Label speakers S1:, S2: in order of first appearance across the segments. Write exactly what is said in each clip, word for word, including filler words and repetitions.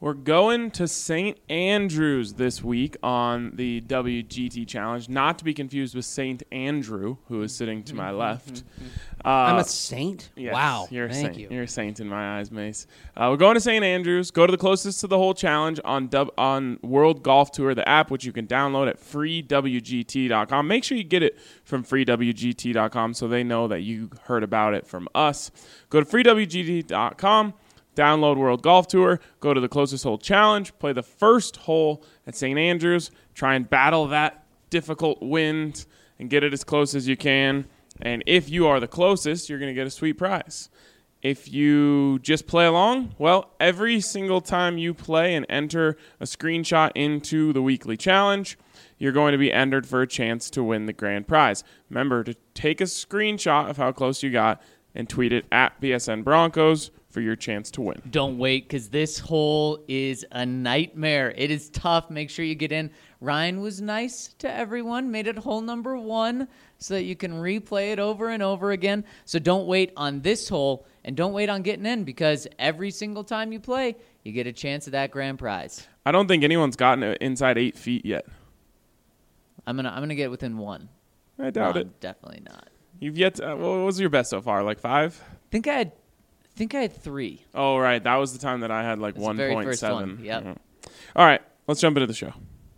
S1: We're going to Saint Andrews this week on the W G T Challenge, not to be confused with Saint Andrew, who is sitting to my left. Uh,
S2: I'm a saint?
S1: Yes,
S2: Wow.
S1: You're a
S2: Thank
S1: saint.
S2: you.
S1: You're a saint in my eyes, Mace. Uh, we're going to Saint Andrews. Go to the closest to the whole challenge on dub- on World Golf Tour, the app, which you can download at free w g t dot com. Make sure you get it from free w g t dot com so they know that you heard about it from us. Go to free w g t dot com. Download World Golf Tour, go to the closest hole challenge, play the first hole at Saint Andrews, try and battle that difficult wind and get it as close as you can. And if you are the closest, you're going to get a sweet prize. If you just play along, well, every single time you play and enter a screenshot into the weekly challenge, you're going to be entered for a chance to win the grand prize. Remember to take a screenshot of how close you got and tweet it at B S N Broncos for your chance to win.
S3: Don't wait, because this hole is a nightmare. It is tough. Make sure you get in. Ryan was nice to everyone, made it hole number one so that you can replay it over and over again. So don't wait on this hole, and don't wait on getting in, because every single time you play, you get a chance at that grand prize.
S1: I don't think anyone's gotten it inside eight feet yet.
S3: I'm gonna I'm gonna get within one.
S1: I doubt
S3: no,
S1: it.
S3: Definitely not.
S1: You've yet to, uh, what was your best so far, like five?
S3: I think I had, I think I had three.
S1: Oh, right. That was the time that I had like
S3: That's the very
S1: one point
S3: first
S1: seven.
S3: one, yep.
S1: Mhm. All right. Let's jump into the show.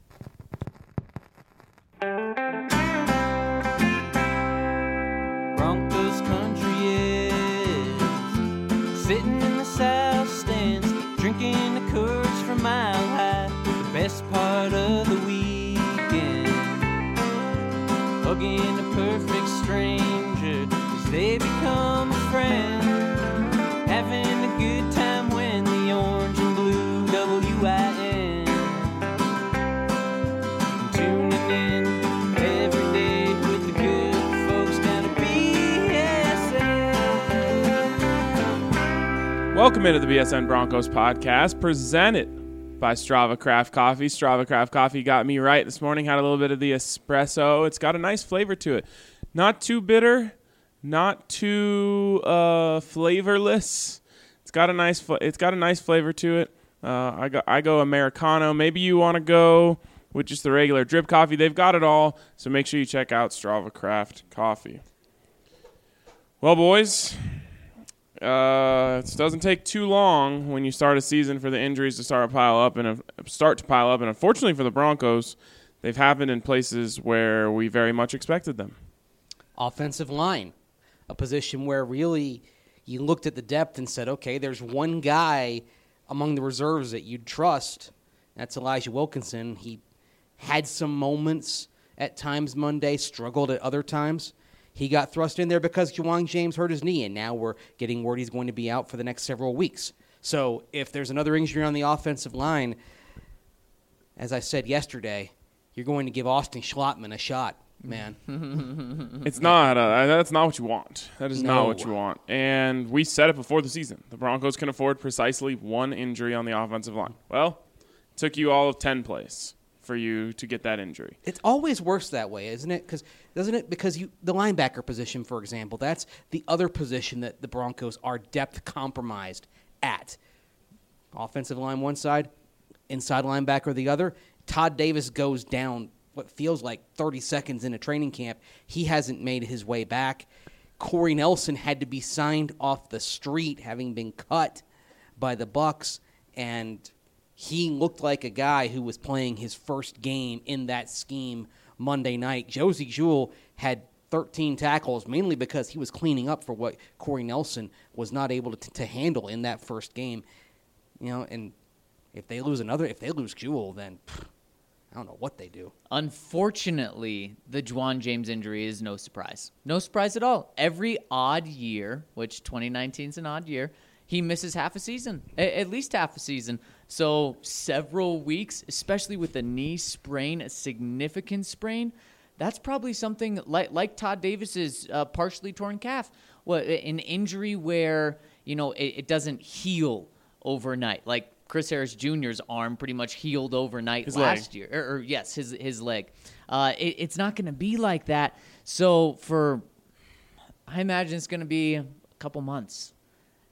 S4: Broncos country is sitting in the south stands, drinking the Coors from Mile High. The best part of the weekend, hugging a perfect stranger as they become a friend, having a good time when the orange and blue W I N, tuning in every day with the good folks down at B S N.
S1: Welcome into the B S N Broncos podcast, presented by Strava Craft Coffee. Strava Craft Coffee got me right this morning. Had a little bit of the espresso. It's got a nice flavor to it. Not too bitter, not too uh, flavorless. It's got a nice. Fl- it's got a nice flavor to it. Uh, I go. I go Americano. Maybe you want to go with just the regular drip coffee. They've got it all. So make sure you check out Strava Craft Coffee. Well, boys. Uh, it doesn't take too long when you start a season for the injuries to start to pile up and uh, start to pile up. And unfortunately for the Broncos, they've happened in places where we very much expected them.
S2: Offensive line, a position where really you looked at the depth and said, okay, there's one guy among the reserves that you'd trust. That's Elijah Wilkinson. He had some moments at times Monday, struggled at other times. He got thrust in there because Ja'Wuan James hurt his knee, and now we're getting word he's going to be out for the next several weeks. So if there's another injury on the offensive line, as I said yesterday, you're going to give Austin Schlottman a shot, man.
S1: It's not. Uh, that's not what you want. That is
S2: No.
S1: not what you want. And we said it before the season. The Broncos can afford precisely one injury on the offensive line. Well, it took you all of ten plays for you to get that injury.
S2: It's always worse that way, isn't it? Because doesn't it? Because you, the linebacker position, for example, that's the other position that the Broncos are depth compromised at. Offensive line one side, inside linebacker the other. Todd Davis goes down what feels like thirty seconds into training camp. He hasn't made his way back. Corey Nelson had to be signed off the street, having been cut by the Bucs, and he looked like a guy who was playing his first game in that scheme Monday night. Josie Jewell had thirteen tackles, mainly because he was cleaning up for what Corey Nelson was not able to, to handle in that first game. You know, and if they lose another, if they lose Jewell, then pff, I don't know what they do.
S3: Unfortunately, the Ja'Wuan James injury is no surprise. No surprise at all. Every odd year, which twenty nineteen is an odd year, he misses half a season, a- at least half a season. So several weeks, especially with a knee sprain, a significant sprain, that's probably something like like Todd Davis's uh, partially torn calf, what an injury where you know it, it doesn't heal overnight, like Chris Harris Junior's arm pretty much healed overnight
S1: His
S3: last
S1: leg.
S3: year, or, or yes, his his leg. Uh, it, it's not going to be like that. So for, I imagine it's going to be a couple months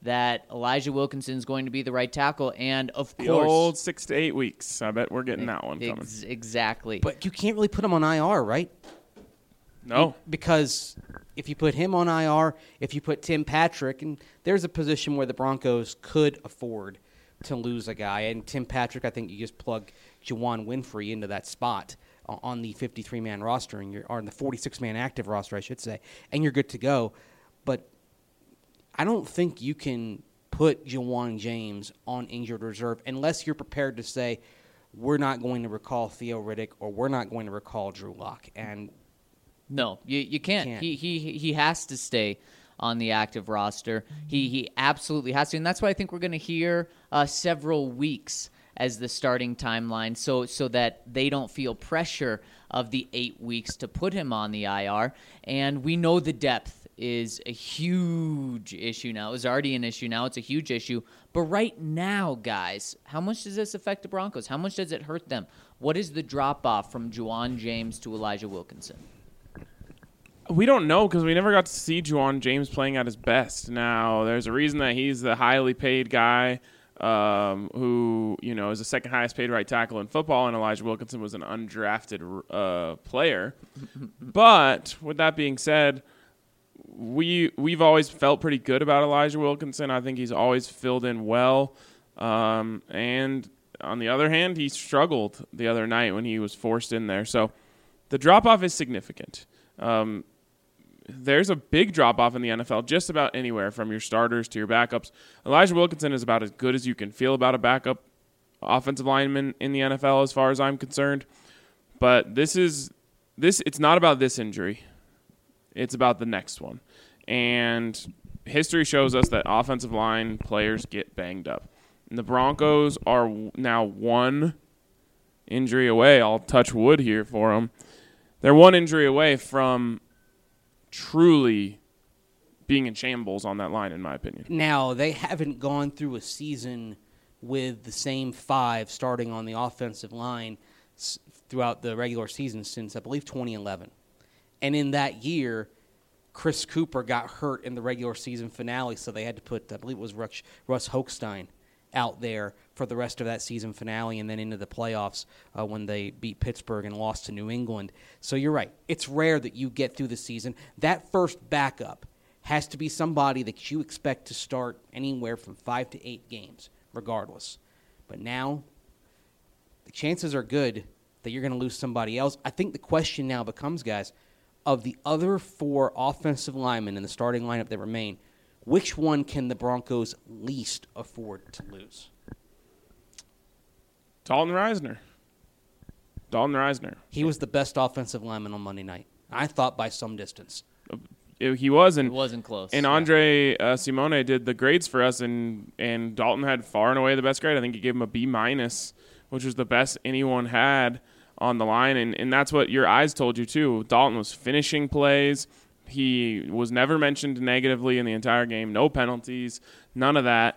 S3: that Elijah Wilkinson is going to be the right tackle. And, of
S1: The
S3: course,
S1: old six to eight weeks. I bet we're getting that one coming.
S3: ex- exactly.
S2: But you can't really put him on I R, right?
S1: No.
S2: Because if you put him on I R, if you put Tim Patrick, and there's a position where the Broncos could afford to lose a guy, and Tim Patrick, I think you just plug Juwan Winfrey into that spot on the fifty-three man roster, and you're, or on the forty-six man active roster, I should say, and you're good to go. But I don't think you can put Juwan James on injured reserve unless you're prepared to say, we're not going to recall Theo Riddick or we're not going to recall Drew Lock. And
S3: No, you you can't.
S2: Can't.
S3: He he he has to stay on the active roster. He he absolutely has to, and that's why I think we're going to hear uh, several weeks as the starting timeline, so so that they don't feel pressure of the eight weeks to put him on the I R. And we know the depth is a huge issue now. It was already an issue. Now it's a huge issue. But right now, guys, how much does this affect the Broncos? How much does it hurt them? What is the drop off from Juwan James to Elijah Wilkinson?
S1: We don't know because we never got to see Juwan James playing at his best. Now, there's a reason that he's the highly paid guy um, who, you know, is the second highest paid right tackle in football, and Elijah Wilkinson was an undrafted uh, player. But with that being said, we we've always felt pretty good about Elijah Wilkinson. I think he's always filled in well. Um, and on the other hand, he struggled the other night when he was forced in there. So the drop off is significant. Um, there's a big drop-off in the N F L just about anywhere from your starters to your backups. Elijah Wilkinson is about as good as you can feel about a backup offensive lineman in the N F L as far as I'm concerned. But this is this it's not about this injury. It's about the next one. And history shows us that offensive line players get banged up. And the Broncos are now one injury away. I'll touch wood here for them. They're one injury away from truly being in shambles on that line, in my opinion.
S2: now they haven't gone through a season with the same five starting on the offensive line s- throughout the regular season since, I believe, twenty eleven. And in that year, Chris Cooper got hurt in the regular season finale, so they had to put, I believe it was Russ, Russ Hochstein out there for the rest of that season finale and then into the playoffs uh, when they beat Pittsburgh and lost to New England. So you're right. It's rare that you get through the season. That first backup has to be somebody that you expect to start anywhere from five to eight games, regardless. But now the chances are good that you're going to lose somebody else. I think the question now becomes, guys, of the other four offensive linemen in the starting lineup that remain, which one can the Broncos least afford to lose?
S1: Dalton Reisner. Dalton Reisner.
S2: He was the best offensive lineman on Monday night, I thought, by some distance.
S1: It- he was,
S3: It
S1: and
S3: wasn't close.
S1: And Andre uh, Simone did the grades for us, and and Dalton had far and away the best grade. I think he gave him a B minus, which was the best anyone had on the line, and and that's what your eyes told you too. Dalton was finishing plays. He was never mentioned negatively in the entire game. No penalties, none of that.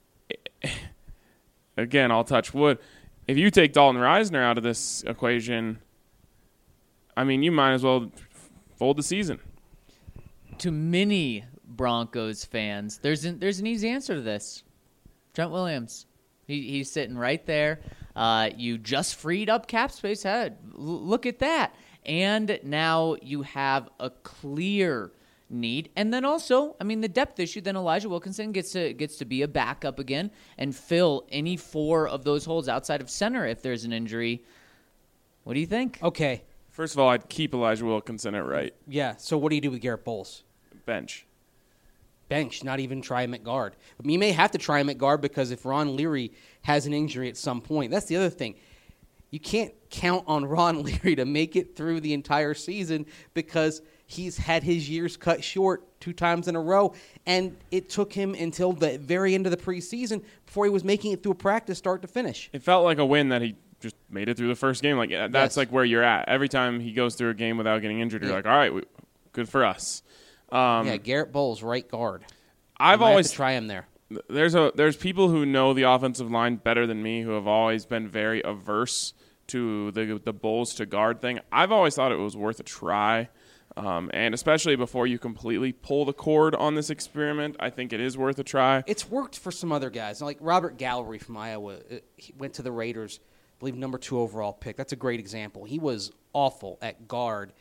S1: Again, I'll touch wood. If you take Dalton Reisner out of this equation, I mean, you might as well fold the season.
S3: To many Broncos fans, there's an, there's an easy answer to this. Trent Williams. He, he's sitting right there. Uh, you just freed up cap space. Head. L- look at that. And now you have a clear need. And then also, I mean, the depth issue, then Elijah Wilkinson gets to gets to be a backup again and fill any four of those holes outside of center if there's an injury. What do you think?
S2: Okay,
S1: First of all, I'd keep Elijah Wilkinson at right
S2: yeah, so what do you do with Garrett Bowles?
S1: bench.
S2: Bench, not even try him at guard. I mean, you may have to try him at guard because if Ron Leary has an injury at some point, that's the other thing. You can't count on Ron Leary to make it through the entire season because he's had his years cut short two times in a row, and it took him until the very end of the preseason before he was making it through a practice start to finish.
S1: It felt like a win that he just made it through the first game. Like uh, that's
S2: Yes.
S1: like where you're at. Every time he goes through a game without getting injured, you're
S2: Yeah.
S1: like, all right, we, good for us. Um,
S2: yeah, Garrett Bowles, right guard.
S1: I've
S2: You might have
S1: always
S2: to try him there.
S1: there's a there's people who know the offensive line better than me who have always been very averse to the the Bulls to guard thing. I've always thought it was worth a try. Um, and especially before you completely pull the cord on this experiment, I think it is worth a try.
S2: It's worked for some other guys. Like Robert Gallery from Iowa, uh, he went to the Raiders, I believe number two overall pick. That's a great example. He was awful at guard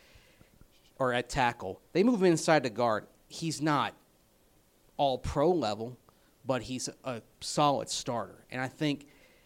S2: or at tackle. They move him inside to guard. He's not all pro level, but he's a solid starter. And I think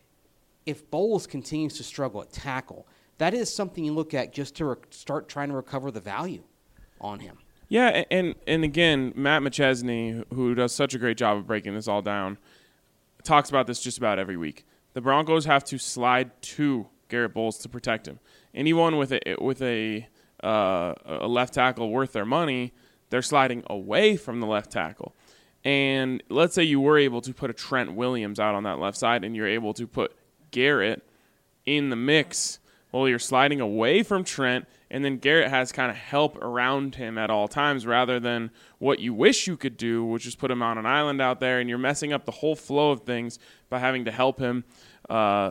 S2: if Bowles continues to struggle at tackle, that is something you look at just to re- start trying to recover the value on him.
S1: Yeah, and and again, Matt McChesney, who does such a great job of breaking this all down, talks about this just about every week. The Broncos have to slide to Garrett Bowles to protect him. Anyone with a with a uh, a left tackle worth their money, they're sliding away from the left tackle. And let's say you were able to put a Trent Williams out on that left side, and you're able to put Garrett in the mix. Well, you're sliding away from Trent, and then Garrett has kind of help around him at all times rather than what you wish you could do, which is put him on an island out there, and you're messing up the whole flow of things by having to help him. Uh,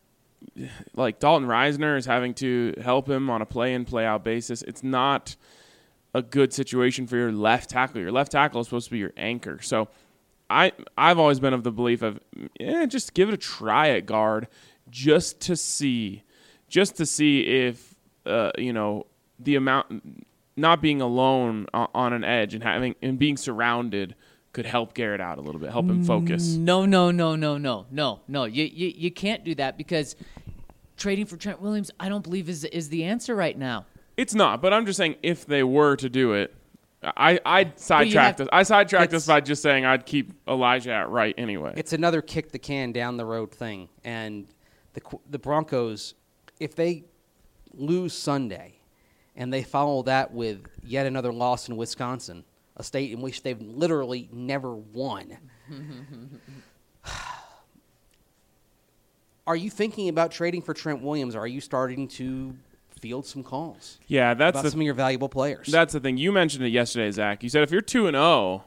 S1: like Dalton Reisner is having to help him on a play-in, play-out basis. It's not a good situation for your left tackle. Your left tackle is supposed to be your anchor. So I, I've always been of the belief of, yeah, just give it a try at guard just to see – just to see if, uh, you know, the amount, not being alone on, on an edge and having and being surrounded could help Garrett out a little bit, help him focus.
S3: No, no, no, no, no, no, no. You, you, you can't do that because trading for Trent Williams, I don't believe is is the answer right now.
S1: It's not, but I'm just saying if they were to do it, I, I'd sidetrack this. I sidetracked this by just saying I'd keep Elijah at right anyway.
S2: It's another kick the can down the road thing. And the the Broncos, if they lose Sunday and they follow that with yet another loss in Wisconsin, a state in which they've literally never won, are you thinking about trading for Trent Williams? Or are you starting to field some calls?
S1: Yeah, that's
S2: about
S1: the,
S2: some of your valuable players.
S1: That's the thing. You mentioned it yesterday, Zach. You said if you're two and zero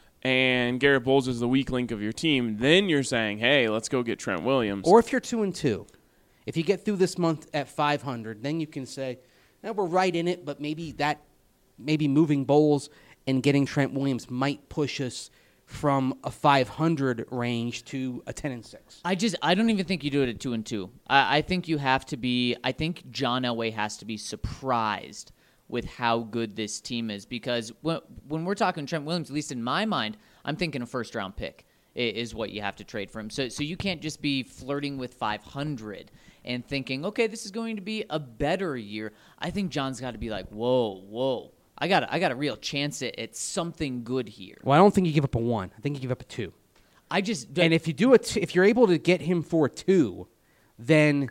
S1: and Garrett Bowles is the weak link of your team, then you're saying, hey, let's go get Trent Williams.
S2: Or if you're two and two. If you get through this month at five hundred, then you can say, eh, we're right in it, but maybe that, maybe moving Bowles and getting Trent Williams might push us from a five hundred range to a ten and six.
S3: I just I don't even think you do it at two and two. I, I think you have to be. I think John Elway has to be surprised with how good this team is because when when we're talking Trent Williams, at least in my mind, I'm thinking a first round pick is what you have to trade for him. So so you can't just be flirting with five hundred and thinking, okay, this is going to be a better year. I think John's got to be like, whoa, whoa. I got I got a real chance at, at something good here.
S2: Well, I don't think you give up a one. I think you give up a two.
S3: I just
S2: and if you do it, if you're able to get him for a two, then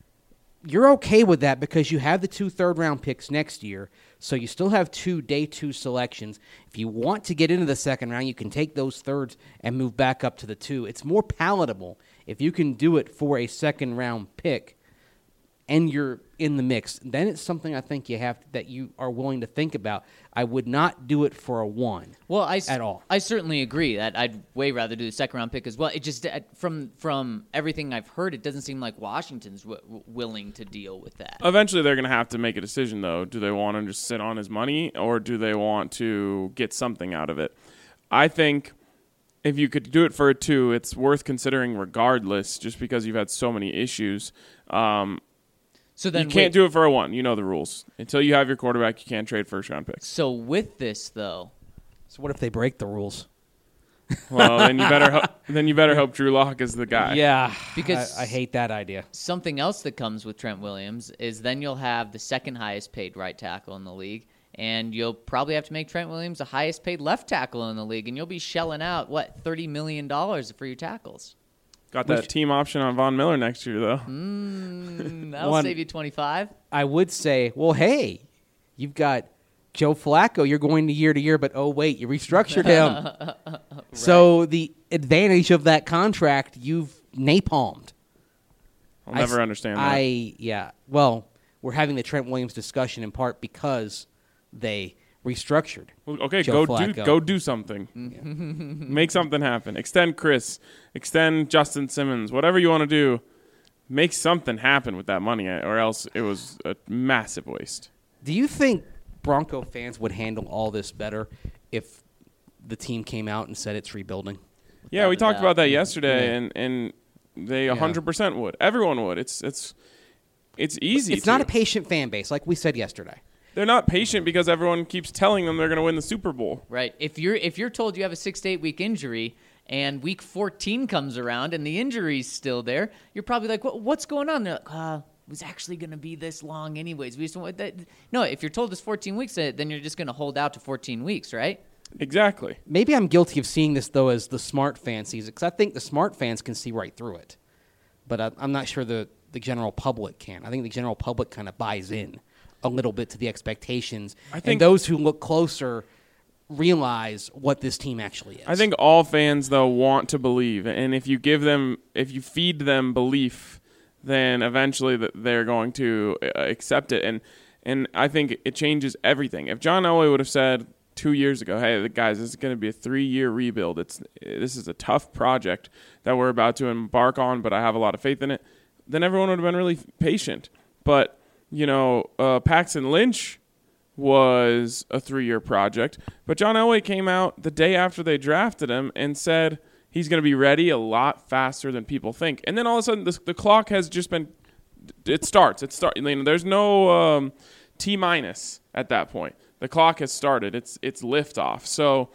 S2: you're okay with that because you have the two third round picks next year. So you still have two day two selections. If you want to get into the second round, you can take those thirds and move back up to the two. It's more palatable if you can do it for a second round pick and you're in the mix. Then it's something I think you have that you are willing to think about. I would not do it for a one.
S3: Well, I
S2: at all.
S3: I certainly agree that I'd way rather do the second round pick as well. It just from from everything I've heard, it doesn't seem like Washington's w- willing to deal with that.
S1: Eventually, they're going to have to make a decision, though. Do they want to just sit on his money, or do they want to get something out of it? I think if you could do it for a two, it's worth considering regardless, just because you've had so many issues. Um,
S3: So then
S1: you can't
S3: wait,
S1: do it for a one. You know the rules. Until you have your quarterback, you can't trade first round picks.
S3: So with this though,
S2: So what if they break the rules?
S1: Well, then you better ho- then you better hope Drew Lock is the guy.
S2: Yeah,
S3: Because-
S2: I, I hate that idea.
S3: something else that comes with Trent Williams is then you'll have the second highest paid right tackle in the league, and you'll probably have to make Trent Williams the highest paid left tackle in the league, and you'll be shelling out what thirty million dollars for your tackles.
S1: Got that
S2: Which-
S1: team option on Von Miller next year, though.
S3: Mm, that'll
S2: One-
S3: save you twenty-five.
S2: I would say, well, hey, you've got Joe Flacco. You're going to year to year, but oh wait, you restructured him. Right. So the advantage of that contract, you've napalmed.
S1: I'll never
S2: I,
S1: understand that.
S2: I yeah. Well, we're having the Trent Williams discussion in part because they restructured.
S1: Well, okay,
S2: Joe
S1: go do
S2: Flacco.
S1: go do something. Make something happen. Extend Chris. Extend Justin Simmons. Whatever you want to do, make something happen with that money, or else it was a massive waste.
S2: Do you think Bronco fans would handle all this better if the team came out and said it's rebuilding.
S1: Yeah, we
S3: Without a
S1: talked
S3: doubt.
S1: about that yesterday,
S2: Yeah.
S1: and, and they one hundred percent would. Everyone would. It's it's it's easy.
S2: It's not
S1: to.
S2: a patient fan base, like we said yesterday.
S1: They're not patient because everyone keeps telling them they're going to win the Super Bowl.
S3: Right. If you're if you're told you have a six to eight week injury and week fourteen comes around and the injury's still there, you're probably like, what, what's going on? They're like, uh, it was actually going to be this long anyways. We just want that. No, if you're told it's fourteen weeks, then you're just going to hold out to fourteen weeks, right?
S1: Exactly.
S2: Maybe I'm guilty of seeing this, though, as the smart fan sees it, because I think the smart fans can see right through it. But I, I'm not sure the, the general public can. I think the general public kind of buys in a little bit to the expectations.
S1: I think-
S2: and those who look closer realize what this team actually is.
S1: I think all fans, though, want to believe. And if you give them, if you feed them belief, then eventually th- they're going to uh, accept it. And and I think it changes everything. If John Elway would have said two years ago, hey, guys, this is going to be a three-year rebuild. It's This is a tough project that we're about to embark on, but I have a lot of faith in it, then everyone would have been really patient. But, you know, uh, Paxton Lynch was a three-year project. But John Elway came out the day after they drafted him and said he's going to be ready a lot faster than people think. And then all of a sudden, the, the clock has just been – it starts. It start, you know, there's no um, T-minus at that point. The clock has started. It's it's liftoff. So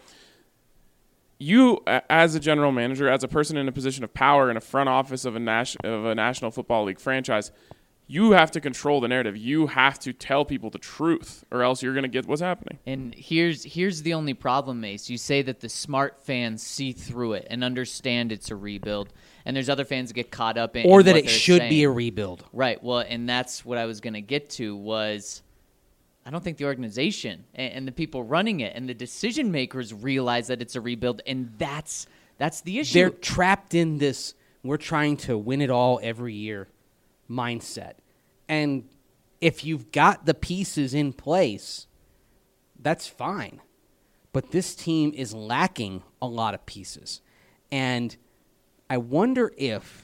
S1: you, as a general manager, as a person in a position of power in a front office of a, nas- of a National Football League franchise – you have to control the narrative. You have to tell people the truth, or else you're going to get what's happening.
S3: And here's here's the only problem, Mace. You say that the smart fans see through it and understand it's a rebuild, and there's other fans that get caught up in
S2: or
S3: in
S2: that
S3: what
S2: it
S3: they're
S2: should be
S3: saying.
S2: a rebuild.
S3: Right. Well, and that's what I was going to get to was I don't think the organization and, and the people running it and the decision makers realize that it's a rebuild, and that's that's the issue.
S2: They're trapped in this we're trying to win it all every year mindset. And if you've got the pieces in place, that's fine. But this team is lacking a lot of pieces. And I wonder if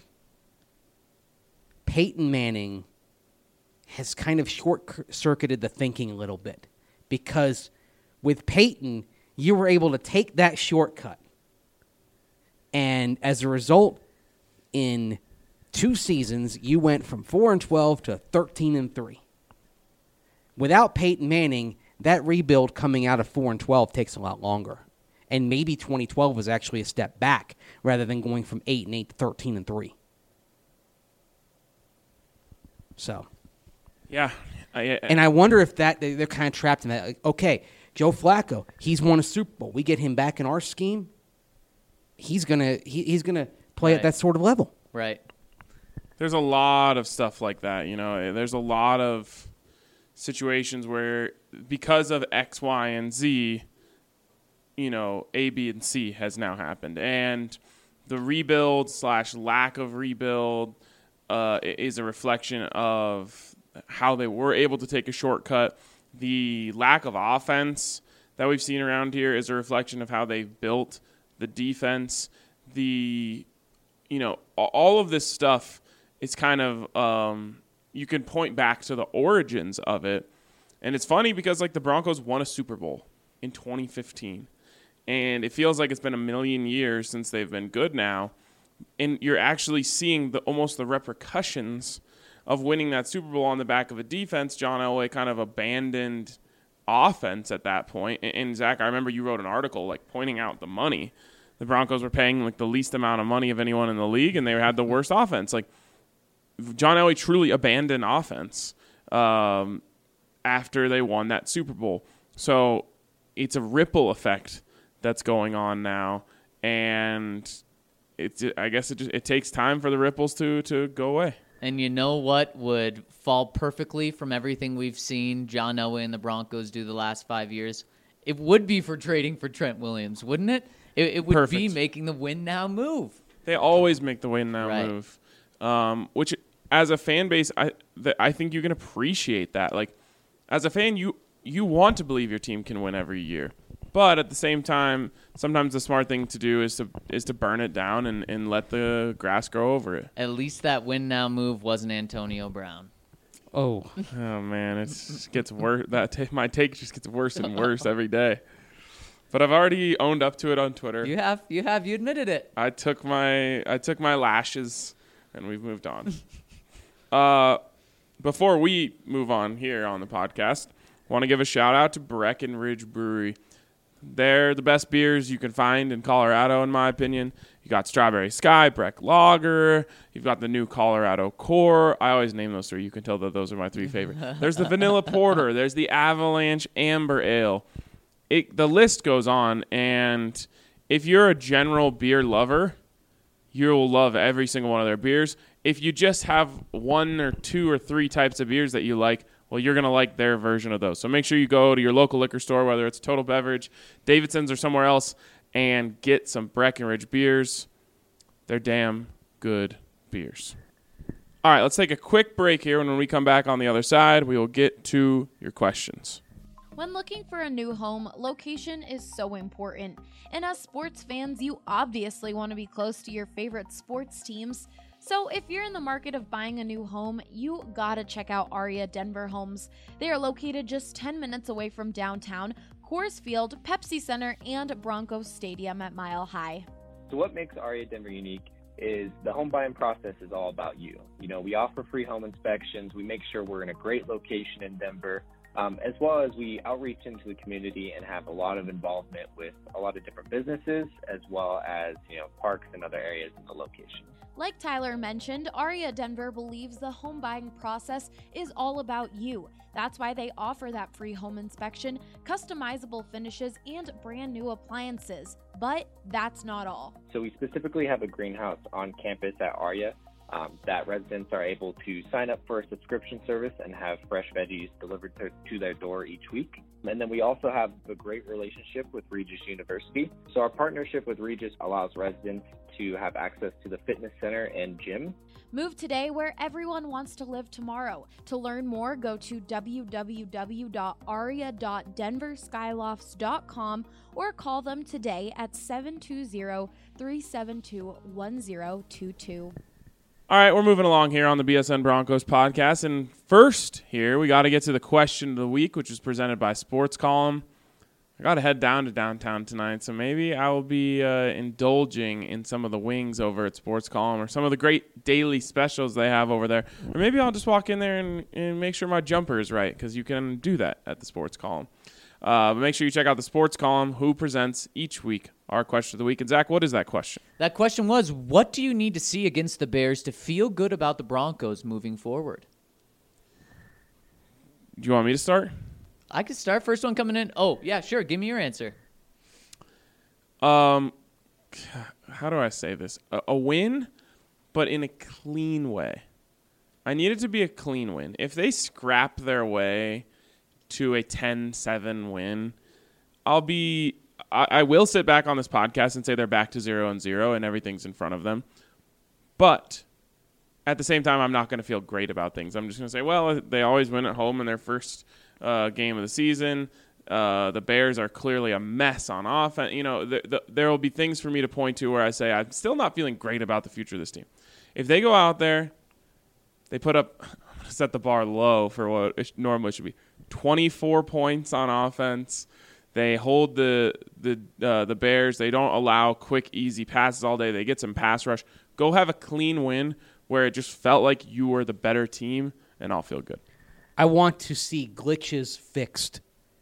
S2: Peyton Manning has kind of short-circuited the thinking a little bit. Because with Peyton, you were able to take that shortcut. And as a result, in two seasons, you went from four and twelve to thirteen and three. Without Peyton Manning, that rebuild coming out of four and twelve takes a lot longer. And maybe twenty twelve was actually a step back rather than going from eight and eight to thirteen and three. So,
S1: Yeah. I, I,
S2: and I wonder if that they- they're kind of trapped in that. Like, okay, Joe Flacco, he's won a Super Bowl. We get him back in our scheme. He's gonna he, he's gonna play
S3: Right.
S2: at that sort of level.
S3: right.
S1: there's a lot of stuff like that. You know, there's a lot of situations where because of X, Y, and Z, you know, A, B, and C has now happened. And the rebuild slash lack of rebuild uh, is a reflection of how they were able to take a shortcut. The lack of offense that we've seen around here is a reflection of how they've built the defense. The, you know, all of this stuff is kind of, um, you can point back to the origins of it. And it's funny because, like, the Broncos won a Super Bowl in twenty fifteen. And it feels like it's been a million years since they've been good now. And you're actually seeing the almost the repercussions of winning that Super Bowl on the back of a defense. John Elway kind of abandoned offense at that point. And, and Zach, I remember you wrote an article, like, pointing out the money. The Broncos were paying, like, the least amount of money of anyone in the league, and they had the worst offense. Like, John Elway truly abandoned offense um, after they won that Super Bowl. So it's a ripple effect that's going on now, and it's I guess it just it takes time for the ripples to to go away.
S3: And you know what would fall perfectly from everything we've seen John Elway and the Broncos do the last five years? It would be for trading for Trent Williams, wouldn't it? It, it would
S1: Perfect.
S3: be making the win now move.
S1: They always make the win now
S3: Right.
S1: move, um, which as a fan base, I th- I think you can appreciate that. Like, as a fan, you you want to believe your team can win every year. But at the same time, sometimes the smart thing to do is to is to burn it down and, and let the grass grow over it.
S3: At least that win now move wasn't Antonio Brown.
S2: Oh,
S1: Oh man, it gets worse. That ta- my take just gets worse and worse every day. But I've already owned up to it on Twitter.
S3: You have, you have, you admitted it.
S1: I took my I took my lashes, and we've moved on. uh, before we move on here on the podcast, I want to give a shout out to Breckenridge Brewery. They're the best beers you can find in Colorado, in my opinion. You got Strawberry Sky, Breck Lager. You've got the new Colorado Core. I always name those three. You can tell that those are my three favorite. There's the Vanilla Porter. There's the Avalanche Amber Ale. It, the list goes on, and if you're a general beer lover, you'll love every single one of their beers. If you just have one or two or three types of beers that you like, well, you're going to like their version of those. So make sure you go to your local liquor store, whether it's Total Beverage, Davidson's, or somewhere else, and get some Breckenridge beers. They're damn good beers. All right, let's take a quick break here, and when we come back on the other side, we will get to your questions.
S5: When looking for a new home, location is so important. And as sports fans, you obviously want to be close to your favorite sports teams. So if you're in the market of buying a new home, you gotta check out Aria Denver Homes. They are located just ten minutes away from downtown, Coors Field, Pepsi Center, and Broncos Stadium at Mile High.
S6: So what makes Aria Denver unique is the home buying process is all about you. You know, we offer free home inspections. We make sure we're in a great location in Denver. Um, as well as we outreach into the community and have a lot of involvement with a lot of different businesses, as well as, you know, parks and other areas in the location.
S5: Like Tyler mentioned, Aria Denver believes the home buying process is all about you. That's why they offer that free home inspection, customizable finishes, and brand new appliances. But that's not all.
S6: So we specifically have a greenhouse on campus at Aria. Um, that residents are able to sign up for a subscription service and have fresh veggies delivered to, to their door each week. And then we also have a great relationship with Regis University. So our partnership with Regis allows residents to have access to the fitness center and gym.
S5: Move today where everyone wants to live tomorrow. To learn more, go to w w w dot aria dot denver skylofts dot com or call them today at seven two zero, three seven two, one zero two two.
S1: All right, we're moving along here on the B S N Broncos podcast. And first here, we got to get to the question of the week, which is presented by Sports Column. I got to head down to downtown tonight, so maybe I will be uh, indulging in some of the wings over at Sports Column or some of the great daily specials they have over there. Or maybe I'll just walk in there and, and make sure my jumper is right, because you can do that at the Sports Column. Uh, but make sure you check out the Sports Column, who presents each week our question of the week. And Zach, what is that question?
S3: That question was, what do you need to see against the Bears to feel good about the Broncos moving forward?
S1: Do you want me to start?
S3: I could start. First one coming in. Oh, yeah, sure. Give me your answer.
S1: Um, how do I say this? A, a win, but in a clean way. I need it to be a clean win. If they scrap their way to a ten seven win, I'll be I, I will sit back on this podcast and say they're back to zero and zero and everything's in front of them. But at the same time, I'm not going to feel great about things. I'm just going to say, well, they always win at home in their first uh, game of the season. Uh, the Bears are clearly a mess on offense. You know, th- th- there will be things for me to point to where I say I'm still not feeling great about the future of this team. If they go out there, they put up, I'm going to set the bar low for what it normally should be, twenty-four points on offense. They hold the the uh, the Bears. They don't allow quick, easy passes all day. They get some pass rush. Go have a clean win where it just felt like you were the better team, and I'll feel good.
S2: I want to see glitches fixed.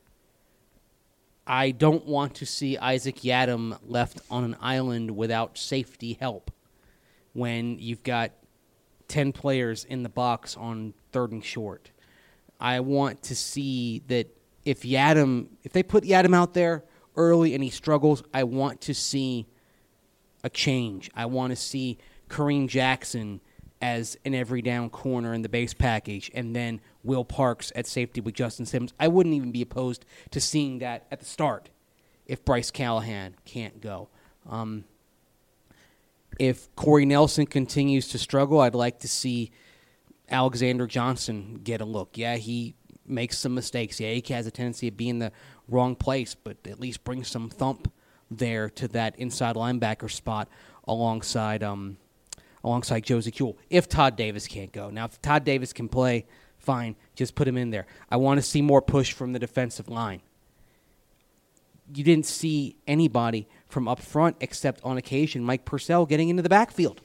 S2: I don't want to see Isaac Yiadom left on an island without safety help when you've got ten players in the box on third and short. I want to see that if Yiadom, if they put Yiadom out there early and he struggles, I want to see a change. I want to see Kareem Jackson as an every down corner in the base package, and then Will Parks at safety with Justin Simmons. I wouldn't even be opposed to seeing that at the start if Bryce Callahan can't go. Um, if Corey Nelson continues to struggle, I'd like to see Alexander Johnson get a look. Yeah, he makes some mistakes. Yeah, he has a tendency of being in the wrong place, but at least bring some thump there to that inside linebacker spot alongside um, alongside Josie Kuhl, if Todd Davis can't go. Now, if Todd Davis can play, Fine, just put him in there. I want to see more push from the defensive line. You didn't see anybody from up front except on occasion Mike Purcell getting into the backfield.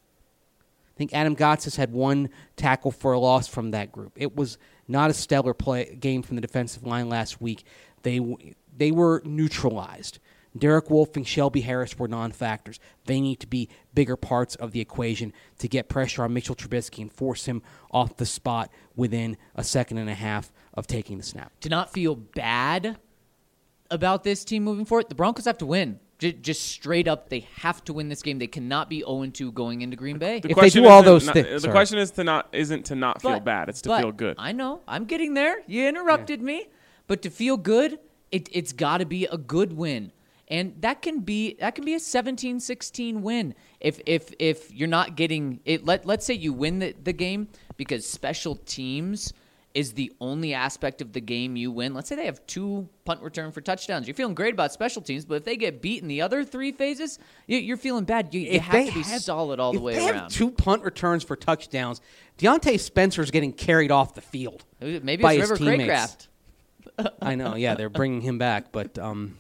S2: I think Adam Gotsis had one tackle for a loss from that group. It was not a stellar play game from the defensive line last week. They they were neutralized. Derek Wolfe and Shelby Harris were non-factors. They need to be bigger parts of the equation to get pressure on Mitchell Trubisky and force him off the spot within a second and a half of taking the snap.
S3: To not feel bad about this team moving forward, the Broncos have to win. J- just straight up, they have to win this game. They cannot be oh and two going into Green Bay.
S1: The
S2: If they
S1: question
S2: do all
S1: isn't
S2: those
S1: not-
S2: things-
S1: The
S2: sorry.
S1: question is to not isn't to not feel
S3: But-
S1: bad. It's to
S3: but
S1: feel good.
S3: I know. I'm getting there. You interrupted me. But to feel good, it, it's got to be a good win. And that can be that can be a seventeen sixteen win. If if if you're not getting it, let let's say you win the, the game because special teams is the only aspect of the game you win. Let's say they have two punt return for touchdowns. You're feeling great about special teams, but if they get beat in the other three phases, you, you're feeling bad. You, you
S2: If
S3: have
S2: they
S3: to be
S2: have-
S3: solid all the
S2: if
S3: way
S2: they
S3: around.
S2: have two punt returns for touchdowns, Deontay Spencer's getting carried off the field.
S3: Maybe
S2: by
S3: it's
S2: his
S3: River
S2: teammates.
S3: Craycraft.
S2: I know, yeah, they're bringing him back, but um,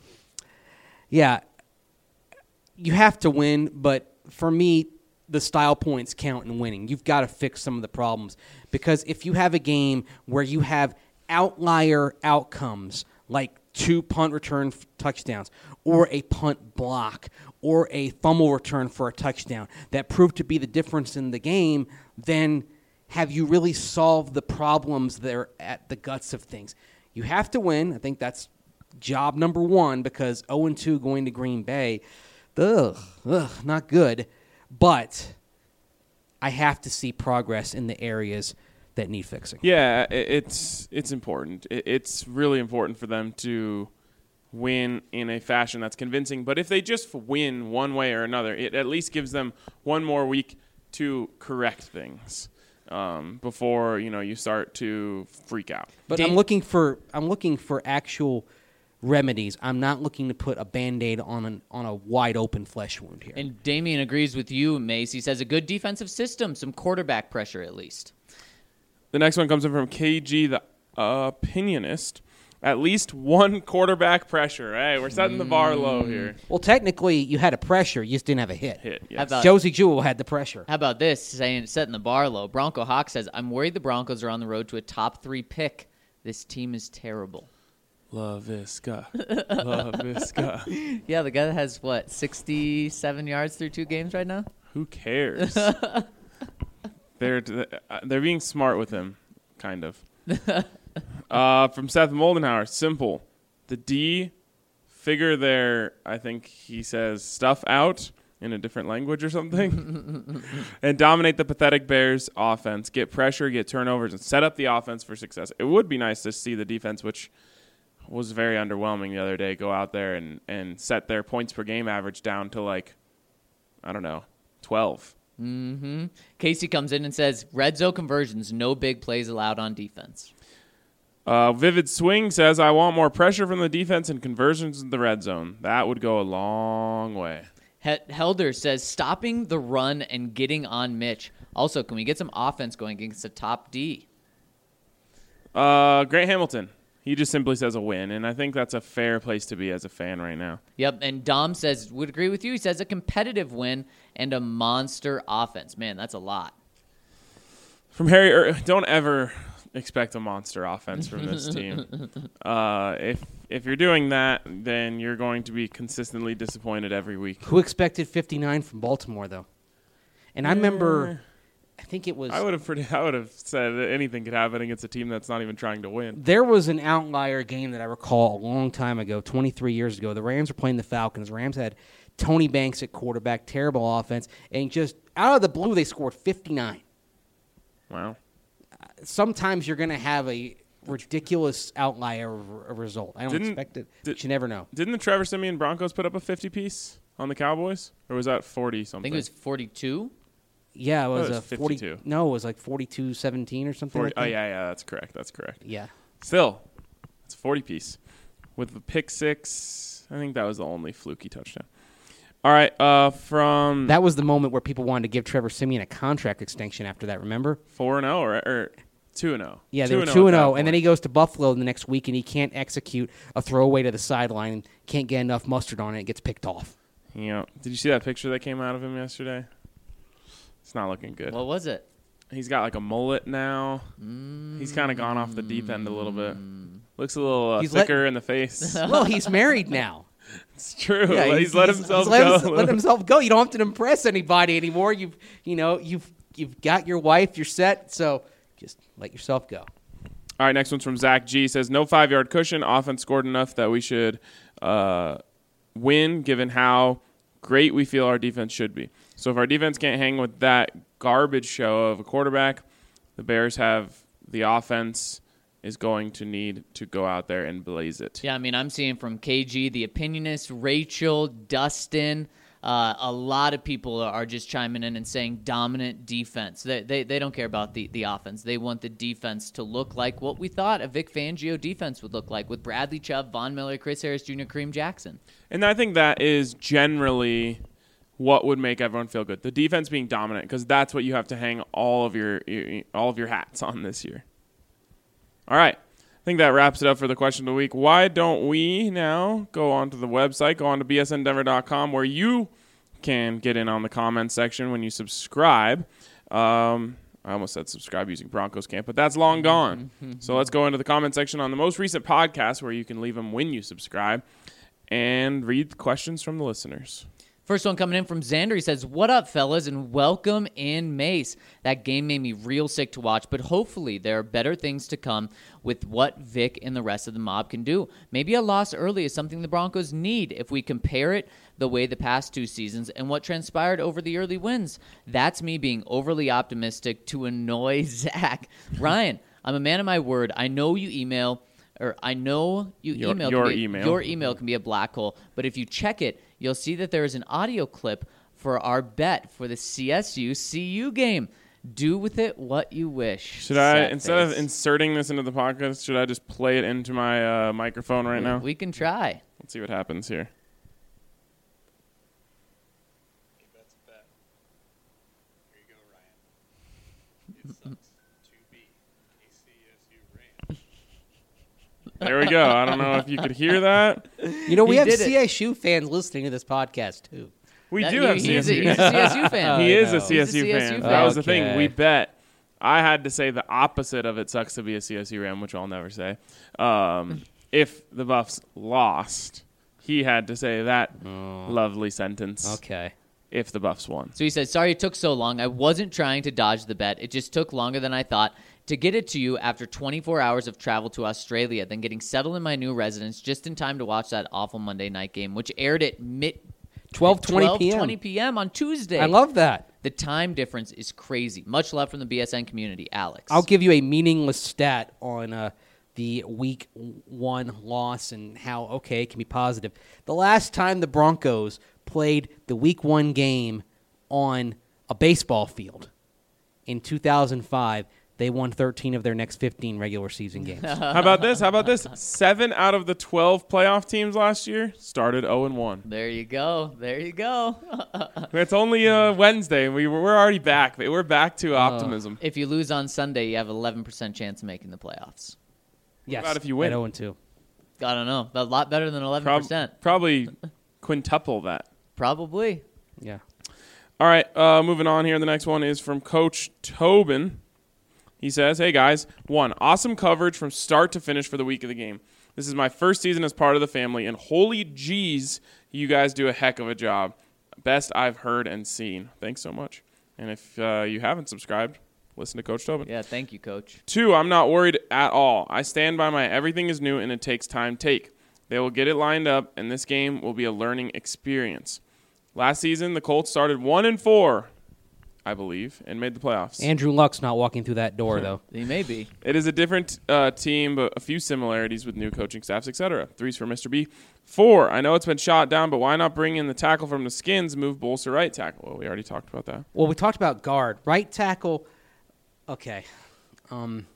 S2: yeah, you have to win. But for me, the style points count in winning. You've got to fix some of the problems because if you have a game where you have outlier outcomes like two punt return f- touchdowns or a punt block or a fumble return for a touchdown that prove to be the difference in the game, then have you really solved the problems that are at the guts of things? You have to win. I think that's job number one because oh and two going to Green Bay, ugh, ugh, not good. But I have to see progress in the areas that need fixing.
S1: Yeah, i- it's it's important. I- It's really important for them to win in a fashion that's convincing. But if they just win one way or another, it at least gives them one more week to correct things um, before you know you start to freak out.
S2: But
S3: Dan-
S2: I'm looking for I'm looking for actual remedies. I'm not looking to put a Band-Aid on an on a wide open flesh wound here.
S3: And Damien agrees with you, Mace. He says a good defensive system, some quarterback pressure at least.
S1: The next one comes in from K G, the opinionist. At least one quarterback pressure. Hey, we're setting the bar low here.
S2: Well, technically, you had a pressure. You just didn't have a hit.
S1: Hit,
S3: How
S1: yes.
S3: about-
S2: Josie Jewell had the pressure.
S3: How about this, saying setting the bar low? Bronco Hawk says, I'm worried the Broncos are on the road to a top three pick. This team is terrible.
S1: La Visca. La Visca.
S3: Yeah, the guy that has, what, sixty-seven yards through two games right now?
S1: Who cares? they're they're being smart with him, kind of. Uh, from Seth Moldenhauer, simple. The D figure their, I think he says, stuff out in a different language or something, and dominate the pathetic Bears offense. Get pressure, get turnovers, and set up the offense for success. It would be nice to see the defense, which was very underwhelming the other day, go out there and, and set their points per game average down to like, I don't know, twelve.
S3: Mm-hmm. Casey comes in and says, red zone conversions, no big plays allowed on defense.
S1: Uh, Vivid Swing says, I want more pressure from the defense and conversions in the red zone. That would go a long way.
S3: He- Helder says, stopping the run and getting on Mitch. Also, can we get some offense going against the top D?
S1: Uh, Grant Hamilton. He just simply says a win, and I think that's a fair place to be as a fan right now.
S3: Yep, and Dom says, would agree with you. He says a competitive win and a monster offense. Man, that's a lot.
S1: From Harry, er, don't ever expect a monster offense from this team. Uh, if if you're doing that, then you're going to be consistently disappointed every week.
S2: Who expected fifty-nine from Baltimore, though? And I remember, I think it was,
S1: I would have pretty, I would have said that anything could happen against a team that's not even trying to win.
S2: there was an outlier game that I recall a long time ago, twenty-three years ago. The Rams were playing the Falcons. Rams had Tony Banks at quarterback, terrible offense, and just out of the blue, they scored fifty-nine.
S1: Wow.
S2: Sometimes you're going to have a ridiculous outlier r- result. I don't
S1: Didn't-
S2: expect it,
S1: did-
S2: but you never know.
S1: Didn't the Trevor Simeon Broncos put up a fifty piece on the Cowboys, or was that forty
S3: I
S1: something?
S3: think it was forty-two.
S2: Yeah, it was,
S1: it was
S2: a forty.
S1: fifty-two.
S2: No, it was like forty-two seventeen or something
S1: forty,
S2: like
S1: oh
S2: that.
S1: yeah, yeah, that's correct. That's correct.
S2: Yeah.
S1: Still, it's a forty piece with the pick six. I think that was the only fluky touchdown. All right, uh, from
S2: That was the moment where people wanted to give Trevor Simeon a contract extension after that, remember?
S1: four and zero, or, or two and oh.
S2: Yeah, they were two and oh, and then he goes to Buffalo the next week, and he can't execute a throwaway to the sideline, and can't get enough mustard on it, and gets picked off.
S1: Yeah. Did you see that picture that came out of him yesterday? It's not looking good.
S3: What was it?
S1: He's got like a mullet now.
S3: Mm.
S1: He's kind of gone off the deep end a little bit. Looks a little uh,
S2: He's
S1: thicker
S2: let-
S1: in the face.
S2: Well, he's married now.
S1: It's true.
S2: Yeah,
S1: he's, let himself
S2: he's let
S1: go.
S2: Him, let himself go. You don't have to impress anybody anymore. You've, you know, you've you've got your wife. You're set. So just let yourself go.
S1: All right, next one's from Zach G. Says, no five-yard cushion. Offense scored enough that we should uh, win, given how great we feel our defense should be. So if our defense can't hang with that garbage show of a quarterback, the Bears have the offense is going to need to go out there and blaze it.
S3: Yeah, I mean, I'm seeing from K G, the opinionist, Rachel, Dustin. Uh, a lot of people are just chiming in and saying dominant defense. They they, they don't care about the, the offense. They want the defense to look like what we thought a Vic Fangio defense would look like with Bradley Chubb, Von Miller, Chris Harris Junior, Kareem Jackson.
S1: And I think that is generally what would make everyone feel good. The defense being dominant, because that's what you have to hang all of your all of your hats on this year. All right. I think that wraps it up for the question of the week. Why don't we now go on to the website, go on to b s n denver dot com, where you can get in on the comments section when you subscribe. Um, I almost said subscribe using Broncos Camp, but that's long gone. So let's go into the comment section on the most recent podcast, where you can leave them when you subscribe, and read the questions from the listeners.
S3: First one coming in from Xander. He says, what up, fellas, and welcome in Mace. That game made me real sick to watch, but hopefully there are better things to come with what Vic and the rest of the mob can do. Maybe a loss early is something the Broncos need if we compare it the way the past two seasons and what transpired over the early wins. That's me being overly optimistic to annoy Zach. Ryan, I'm a man of my word. I know you email... Or I know you
S1: Your-
S3: email
S1: your
S3: can be,
S1: email.
S3: your email can be a black hole, but if you check it, you'll see that there is an audio clip for our bet for the C S U C U game. Do with it what you wish.
S1: Should I,
S3: Sad
S1: instead of
S3: face.
S1: inserting this into the podcast, should I just play it into my uh, microphone right now?
S3: We can try.
S1: Let's see what happens here. There we go. I don't know if you could hear that.
S2: You know, we
S3: He
S2: have
S3: did it.
S2: C S U fans listening to this podcast too.
S1: We
S3: That-
S1: do
S3: he-
S1: have
S3: he's
S1: C S U.
S3: a, he's a C S U fan.
S1: He
S2: I
S1: is
S2: know.
S1: a C S U
S3: He's a C S U
S1: fan.
S3: fan.
S1: That was the thing.
S2: Okay.
S1: We bet. I had to say the opposite of it sucks to be a C S U Ram, which I'll never say. Um, if the Buffs lost, he had to say that lovely sentence.
S2: Okay.
S1: If the Buffs won.
S3: So he said, sorry it took so long. I wasn't trying to dodge the bet. It just took longer than I thought to get it to you after twenty-four hours of travel to Australia, then getting settled in my new residence just in time to watch that awful Monday night game, which aired at mid
S2: twelve twenty p m
S3: twenty p.m. on Tuesday.
S2: I love that.
S3: The time difference is crazy. Much love from the B S N community, Alex.
S2: I'll give you a meaningless stat on uh, the week one loss and how, okay, it can be positive. The last time the Broncos played the week one game on a baseball field in two thousand five, they won thirteen of their next fifteen regular season games.
S1: How about this? How about this? Seven out of the twelve playoff teams last year started oh and one.
S3: There you go. There you go.
S1: It's only uh, Wednesday. We were, we're already back. We're back to optimism.
S3: If you lose on Sunday, you have eleven percent chance of making the playoffs.
S2: Yes,
S1: about if you win?
S2: at oh and two.
S3: I don't know. A lot better than eleven
S1: Prob-
S3: percent.
S1: probably quintuple that.
S3: Probably.
S2: Yeah.
S1: All right, uh, moving on here. The next one is from Coach Tobin. He says, hey, guys. One, awesome coverage from start to finish for the week of the game. This is my first season as part of the family, and holy jeez, you guys do a heck of a job. Best I've heard and seen. Thanks so much. And if uh, you haven't subscribed, listen to Coach Tobin.
S3: Yeah, thank you, Coach.
S1: Two, I'm not worried at all. I stand by my everything is new and it takes time take. They will get it lined up, and this game will be a learning experience. Last season, the Colts started one and four, I believe, and made the playoffs.
S2: Andrew Luck's not walking through that door, though.
S3: He may be.
S1: It is a different uh, team, but a few similarities with new coaching staffs, et cetera. Three's for Mister B. Four, I know it's been shot down, but why not bring in the tackle from the Skins, move Bulls to right tackle? Well, we already talked about that.
S2: Well, we talked about guard. Right tackle, okay. Um,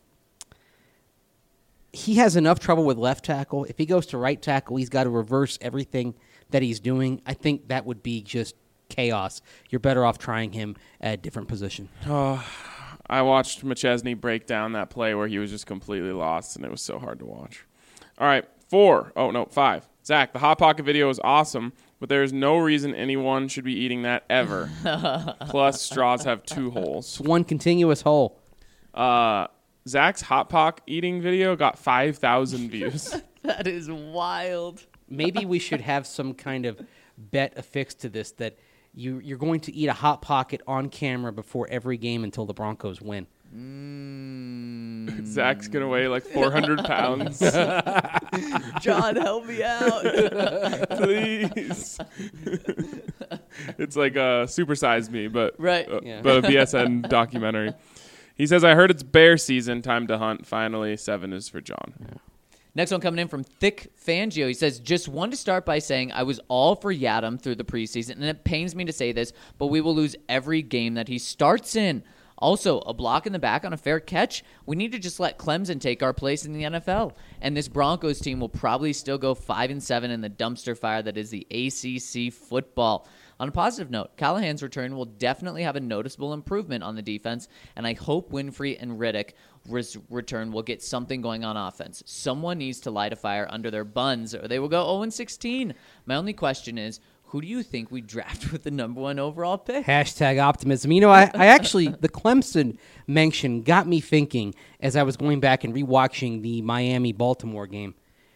S2: he has enough trouble with left tackle. If he goes to right tackle, he's got to reverse everything that he's doing. I think that would be just chaos. You're better off trying him at a different position.
S1: Uh, I watched McChesney break down that play where he was just completely lost, and it was so hard to watch. All right, four. Oh, no, five. Zach, the Hot Pocket video is awesome, but there is no reason anyone should be eating that ever. Plus, straws have two holes.
S2: It's one continuous hole.
S1: Uh, Zach's Hot Pocket eating video got five thousand views.
S3: That is wild.
S2: Maybe we should have some kind of bet affixed to this that you, you're going to eat a Hot Pocket on camera before every game until the Broncos win.
S3: Mm.
S1: Zach's going to weigh like four hundred pounds.
S3: John, help me out.
S1: Please. It's like a Super Size Me, but,
S3: Right.
S1: uh,
S2: Yeah.
S1: but a B S N documentary. He says, I heard it's bear season, time to hunt. Finally, seven is for John.
S2: Yeah.
S3: Next one coming in from Thick Fangio. He says, just want to start by saying I was all for Yadam through the preseason, and it pains me to say this, but we will lose every game that he starts in. Also, a block in the back on a fair catch. We need to just let Clemson take our place in the N F L. And this Broncos team will probably still go five and seven in the dumpster fire that is the A C C football. On a positive note, Callahan's return will definitely have a noticeable improvement on the defense, and I hope Winfrey and Riddick res- return will get something going on offense. Someone needs to light a fire under their buns, or they will go oh and sixteen. My only question is, who do you think we draft with the number one overall pick?
S2: Hashtag optimism. You know, I, I actually, the Clemson mention got me thinking as I was going back and rewatching the Miami-Baltimore game.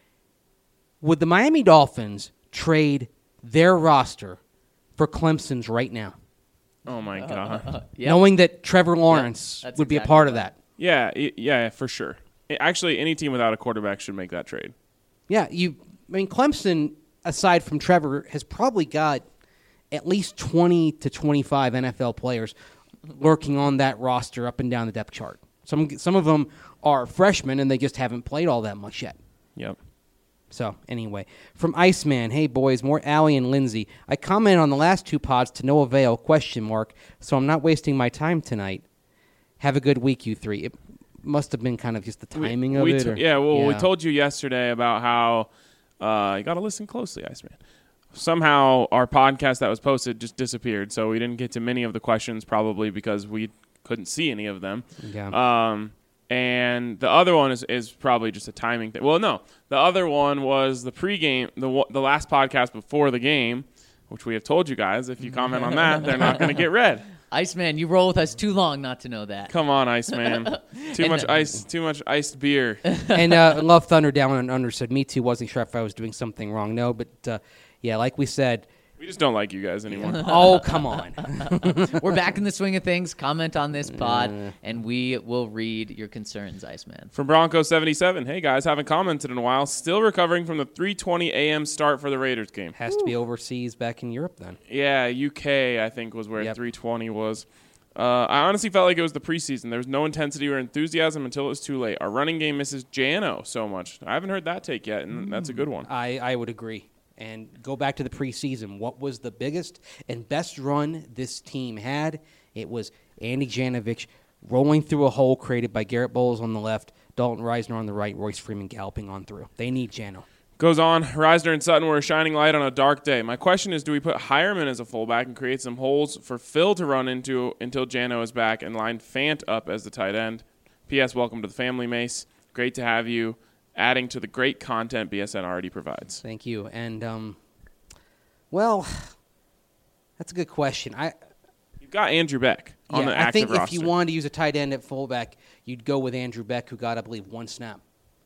S2: Would the Miami Dolphins trade their roster for Clemson's right now?
S1: Oh, my God.
S3: Yep.
S2: Knowing that Trevor Lawrence
S3: that's
S2: would be a
S3: exactly
S2: part of
S3: right.
S2: that.
S1: Yeah, y- yeah, for sure. I- Actually, any team without a quarterback should make that trade.
S2: Yeah, you. I mean, Clemson, aside from Trevor, has probably got at least twenty to twenty-five N F L players lurking on that roster up and down the depth chart. Some some of them are freshmen, and they just haven't played all that much yet.
S1: Yep.
S2: So, anyway, from Iceman, hey, boys, more Allie and Lindsay. I commented on the last two pods to no avail, question mark, so I'm not wasting my time tonight. Have a good week, you three. It must have been kind of just the timing
S1: we,
S2: of
S1: we
S2: it.
S1: to-
S2: or-
S1: yeah, well, we
S2: yeah.
S1: told you yesterday about how uh, you got to listen closely, Iceman. Somehow our podcast that was posted just disappeared, so we didn't get to many of the questions, probably because we couldn't see any of them.
S2: Yeah.
S1: Um, and the other one is, is probably just a timing thing. Well, no, the other one was the pregame, the wa- the last podcast before the game, which we have told you guys. If you comment on that, they're not going to get read.
S3: Iceman, you roll with us too long not to know that.
S1: Come on, Iceman. Too
S3: And,
S1: much
S3: uh,
S1: ice. Too much iced beer.
S2: and uh, Love Thunder down and under said, me too, wasn't sure if I was doing something wrong. No, but uh, yeah, like we said,
S1: We just don't like you guys anymore.
S2: oh, come on.
S3: We're back in the swing of things. Comment on this pod, and we will read your concerns, Iceman.
S1: From Bronco seventy-seven, hey guys, haven't commented in a while. Still recovering from the three twenty a.m. start for the Raiders game.
S2: Has to be overseas back in Europe then.
S1: Yeah, U K, I think, was where
S2: Yep.
S1: three twenty was. Uh, I honestly felt like it was the preseason. There was no intensity or enthusiasm until it was too late. Our running game misses Jano so much. I haven't heard that take yet, and that's a good one.
S2: I, I would agree. And go back to the preseason. What was the biggest and best run this team had? It was Andy Janovich rolling through a hole created by Garrett Bowles on the left, Dalton Reisner on the right, Royce Freeman galloping on through. They need Jano.
S1: Goes on, Reisner and Sutton were a shining light on a dark day. My question is, do we put Hireman as a fullback and create some holes for Phil to run into until Jano is back and line Fant up as the tight end? P S. Welcome to the family, Mace. Great to have you, adding to the great content B S N already provides.
S2: Thank you. And, um, well, that's a good question. I
S1: You've got Andrew Beck on
S2: yeah,
S1: the
S2: I
S1: active
S2: think
S1: roster.
S2: if you wanted to use a tight end at fullback, you'd go with Andrew Beck, who got, I believe, one snap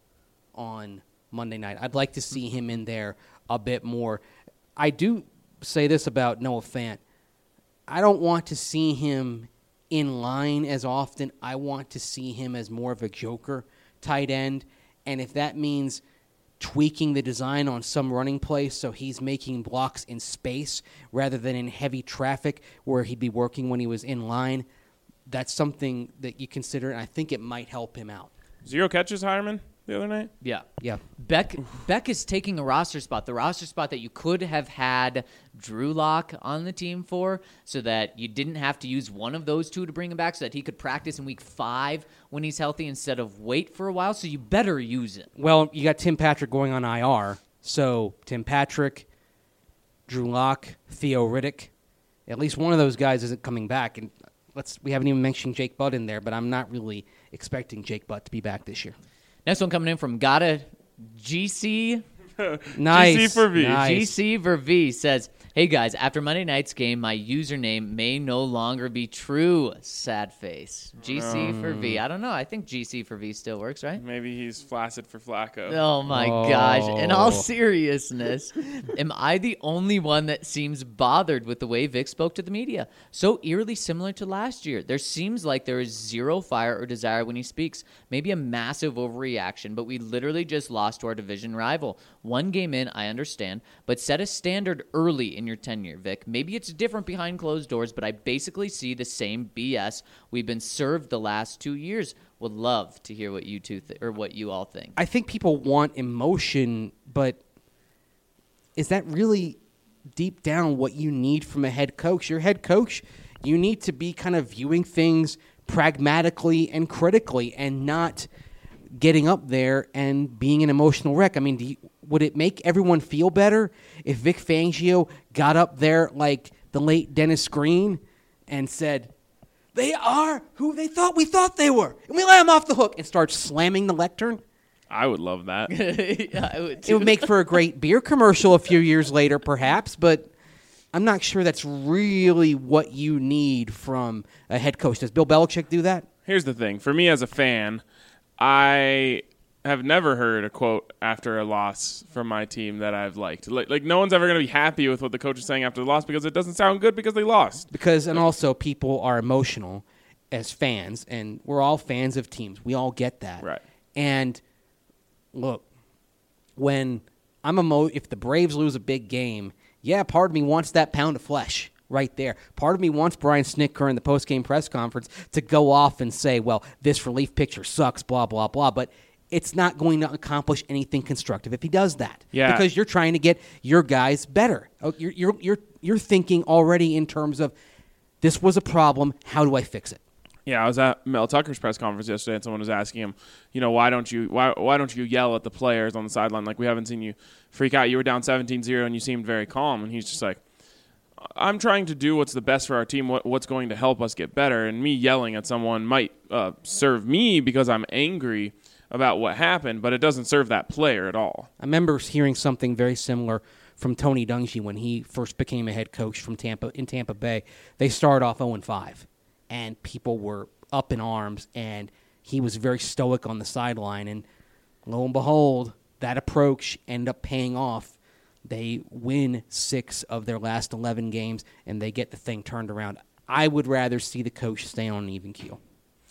S2: on Monday night. I'd like to see him in there a bit more. I do say this about Noah Fant. I don't want to see him in line as often. I want to see him as more of a joker tight end. And if that means tweaking the design on some running plays so he's making blocks in space rather than in heavy traffic where he'd be working when he was in line, that's something that you consider, and I think it might help him out.
S1: Zero catches, Hireman, the other night?
S3: Yeah.
S2: Yeah.
S3: Beck Beck is taking a roster spot, the roster spot that you could have had Drew Lock on the team for, so that you didn't have to use one of those two to bring him back, so that he could practice in week five when he's healthy instead of wait for a while. So you better use it.
S2: Well, you got Tim Patrick going on I R, so Tim Patrick, Drew Lock, Theo Riddick, at least one of those guys isn't coming back. And let's we haven't even mentioned Jake Butt in there, but I'm not really expecting Jake Butt to be back this year.
S3: Next one coming in from Gotta G C.
S2: Nice.
S1: G C for V.
S2: Nice.
S3: G C for V says, "Hey guys, after Monday night's game, my username may no longer be true. Sad face. G C for V. I don't know. I think G C for V still works, right?
S1: Maybe he's flaccid for Flacco.
S3: Oh my
S2: Oh.
S3: gosh. In all seriousness, am I the only one that seems bothered with the way Vic spoke to the media? So eerily similar to last year. There seems like there is zero fire or desire when he speaks. Maybe a massive overreaction, but we literally just lost to our division rival. One game in, I understand, but set a standard early in your tenure, Vic. Maybe it's different behind closed doors, but I basically see the same B S we've been served the last two years. Would love to hear what you two th- or what you all think.
S2: I think people want emotion, but is that really deep down what you need from a head coach? Your head coach, you need to be kind of viewing things pragmatically and critically and not getting up there and being an emotional wreck. I mean, do you, would it make everyone feel better if Vic Fangio got up there like the late Dennis Green and said, they are who they thought we thought they were, and we let them off the hook, and start slamming the lectern?
S1: I would love that.
S3: Yeah, I would
S2: It
S3: too.
S2: would make for a great beer commercial a few years later, perhaps, but I'm not sure that's really what you need from a head coach. Does Bill Belichick do that?
S1: Here's the thing. For me as a fan, I have never heard a quote after a loss from my team that I've liked. Like, like no one's ever going to be happy with what the coach is saying after the loss because it doesn't sound good because they lost.
S2: Because, and also, people are emotional as fans, and we're all fans of teams. We all get that.
S1: Right.
S2: And look, when I'm emo- if the Braves lose a big game, yeah, part of me wants that pound of flesh right there. Part of me wants Brian Snitker in the post-game press conference to go off and say, well, this relief pitcher sucks, blah, blah, blah. But it's not going to accomplish anything constructive if he does that.
S1: Yeah.
S2: Because you're trying to get your guys better. Oh, You're, you're, you're, you're thinking already in terms of, this was a problem, how do I fix it?
S1: Yeah, I was at Mel Tucker's press conference yesterday, and someone was asking him, you know, why don't you why why don't you yell at the players on the sideline? Like, we haven't seen you freak out. You were down seventeen zero, and you seemed very calm. And he's just like, I'm trying to do what's the best for our team, what, what's going to help us get better. And me yelling at someone might uh, serve me because I'm angry about what happened, but it doesn't serve that player at all.
S2: I remember hearing something very similar from Tony Dungy when he first became a head coach from Tampa in Tampa Bay. They started off oh and five, and people were up in arms, and he was very stoic on the sideline. And lo and behold, that approach ended up paying off. They win six of their last eleven games, and they get the thing turned around. I would rather see the coach stay on an even keel.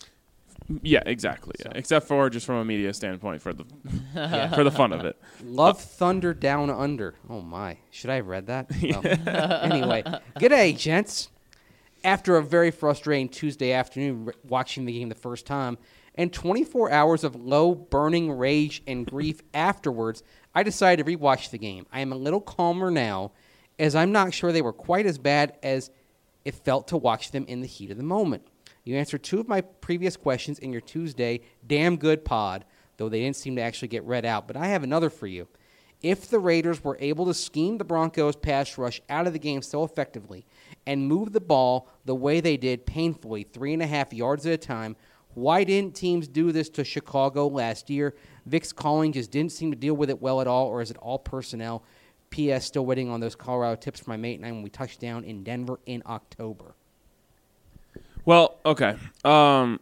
S1: Yeah, exactly. Yeah. Except for just from a media standpoint for the for the fun of it.
S2: Love Thunder Down Under. Oh, my. Should I have read that? Well, anyway, g'day, gents. After a very frustrating Tuesday afternoon r- watching the game the first time and twenty-four hours of low, burning rage and grief afterwards, I decided to rewatch the game. I am a little calmer now, as I'm not sure they were quite as bad as it felt to watch them in the heat of the moment. You answered two of my previous questions in your Tuesday damn good pod, though they didn't seem to actually get read out. But I have another for you. If the Raiders were able to scheme the Broncos' pass rush out of the game so effectively and move the ball the way they did painfully, three and a half yards at a time, why didn't teams do this to Chicago last year? Vic's calling just didn't seem to deal with it well at all, or is it all personnel? P S. Still waiting on those Colorado tips from my mate and I when we touched down in Denver in October.
S1: Well, okay. Um,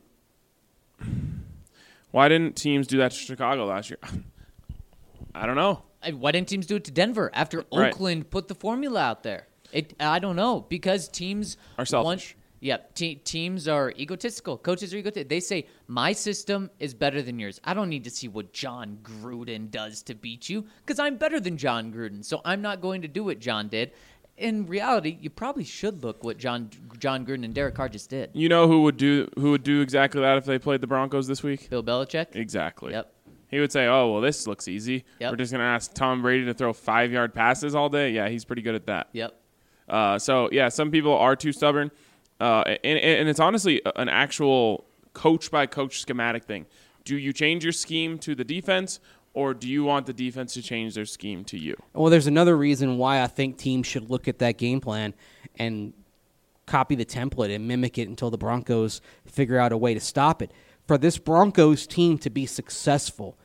S1: why didn't teams do that to Chicago last year? I don't know.
S3: I- Why didn't teams do it to Denver after
S1: Right.
S3: Oakland put the formula out there? It I don't know, because teams
S1: Are selfish.
S3: Want, yeah, te- teams are egotistical. Coaches are egotistical. They say, my system is better than yours. I don't need to see what John Gruden does to beat you because I'm better than John Gruden, so I'm not going to do what John did. In reality, you probably should look what John John Gruden and Derek Carr just did.
S1: You know who would do who would do exactly that if they played the Broncos this week?
S3: Bill Belichick?
S1: Exactly.
S3: Yep.
S1: He would say, "Oh, well, this looks easy.
S3: Yep.
S1: We're just going to ask Tom Brady to throw five-yard passes all day." Yeah, he's pretty good at that.
S3: Yep.
S1: Uh, so, yeah, some people are too stubborn. Uh, and, and it's honestly an actual coach-by-coach schematic thing. Do you change your scheme to the defense, or do you want the defense to change their scheme to you?
S2: Well, there's another reason why I think teams should look at that game plan and copy the template and mimic it until the Broncos figure out a way to stop it. For this Broncos team to be successful,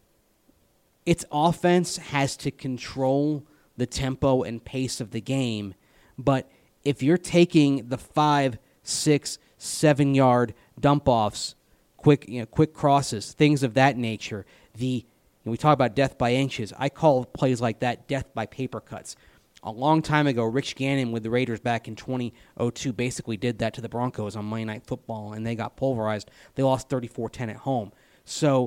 S2: its offense has to control the tempo and pace of the game. But if you're taking the five, six, seven yard dump offs, quick, you know, quick crosses, things of that nature, the and we talk about death by inches. I call plays like that death by paper cuts. A long time ago, Rich Gannon with the Raiders back in twenty oh two basically did that to the Broncos on Monday Night Football, and they got pulverized. They lost thirty-four ten at home. So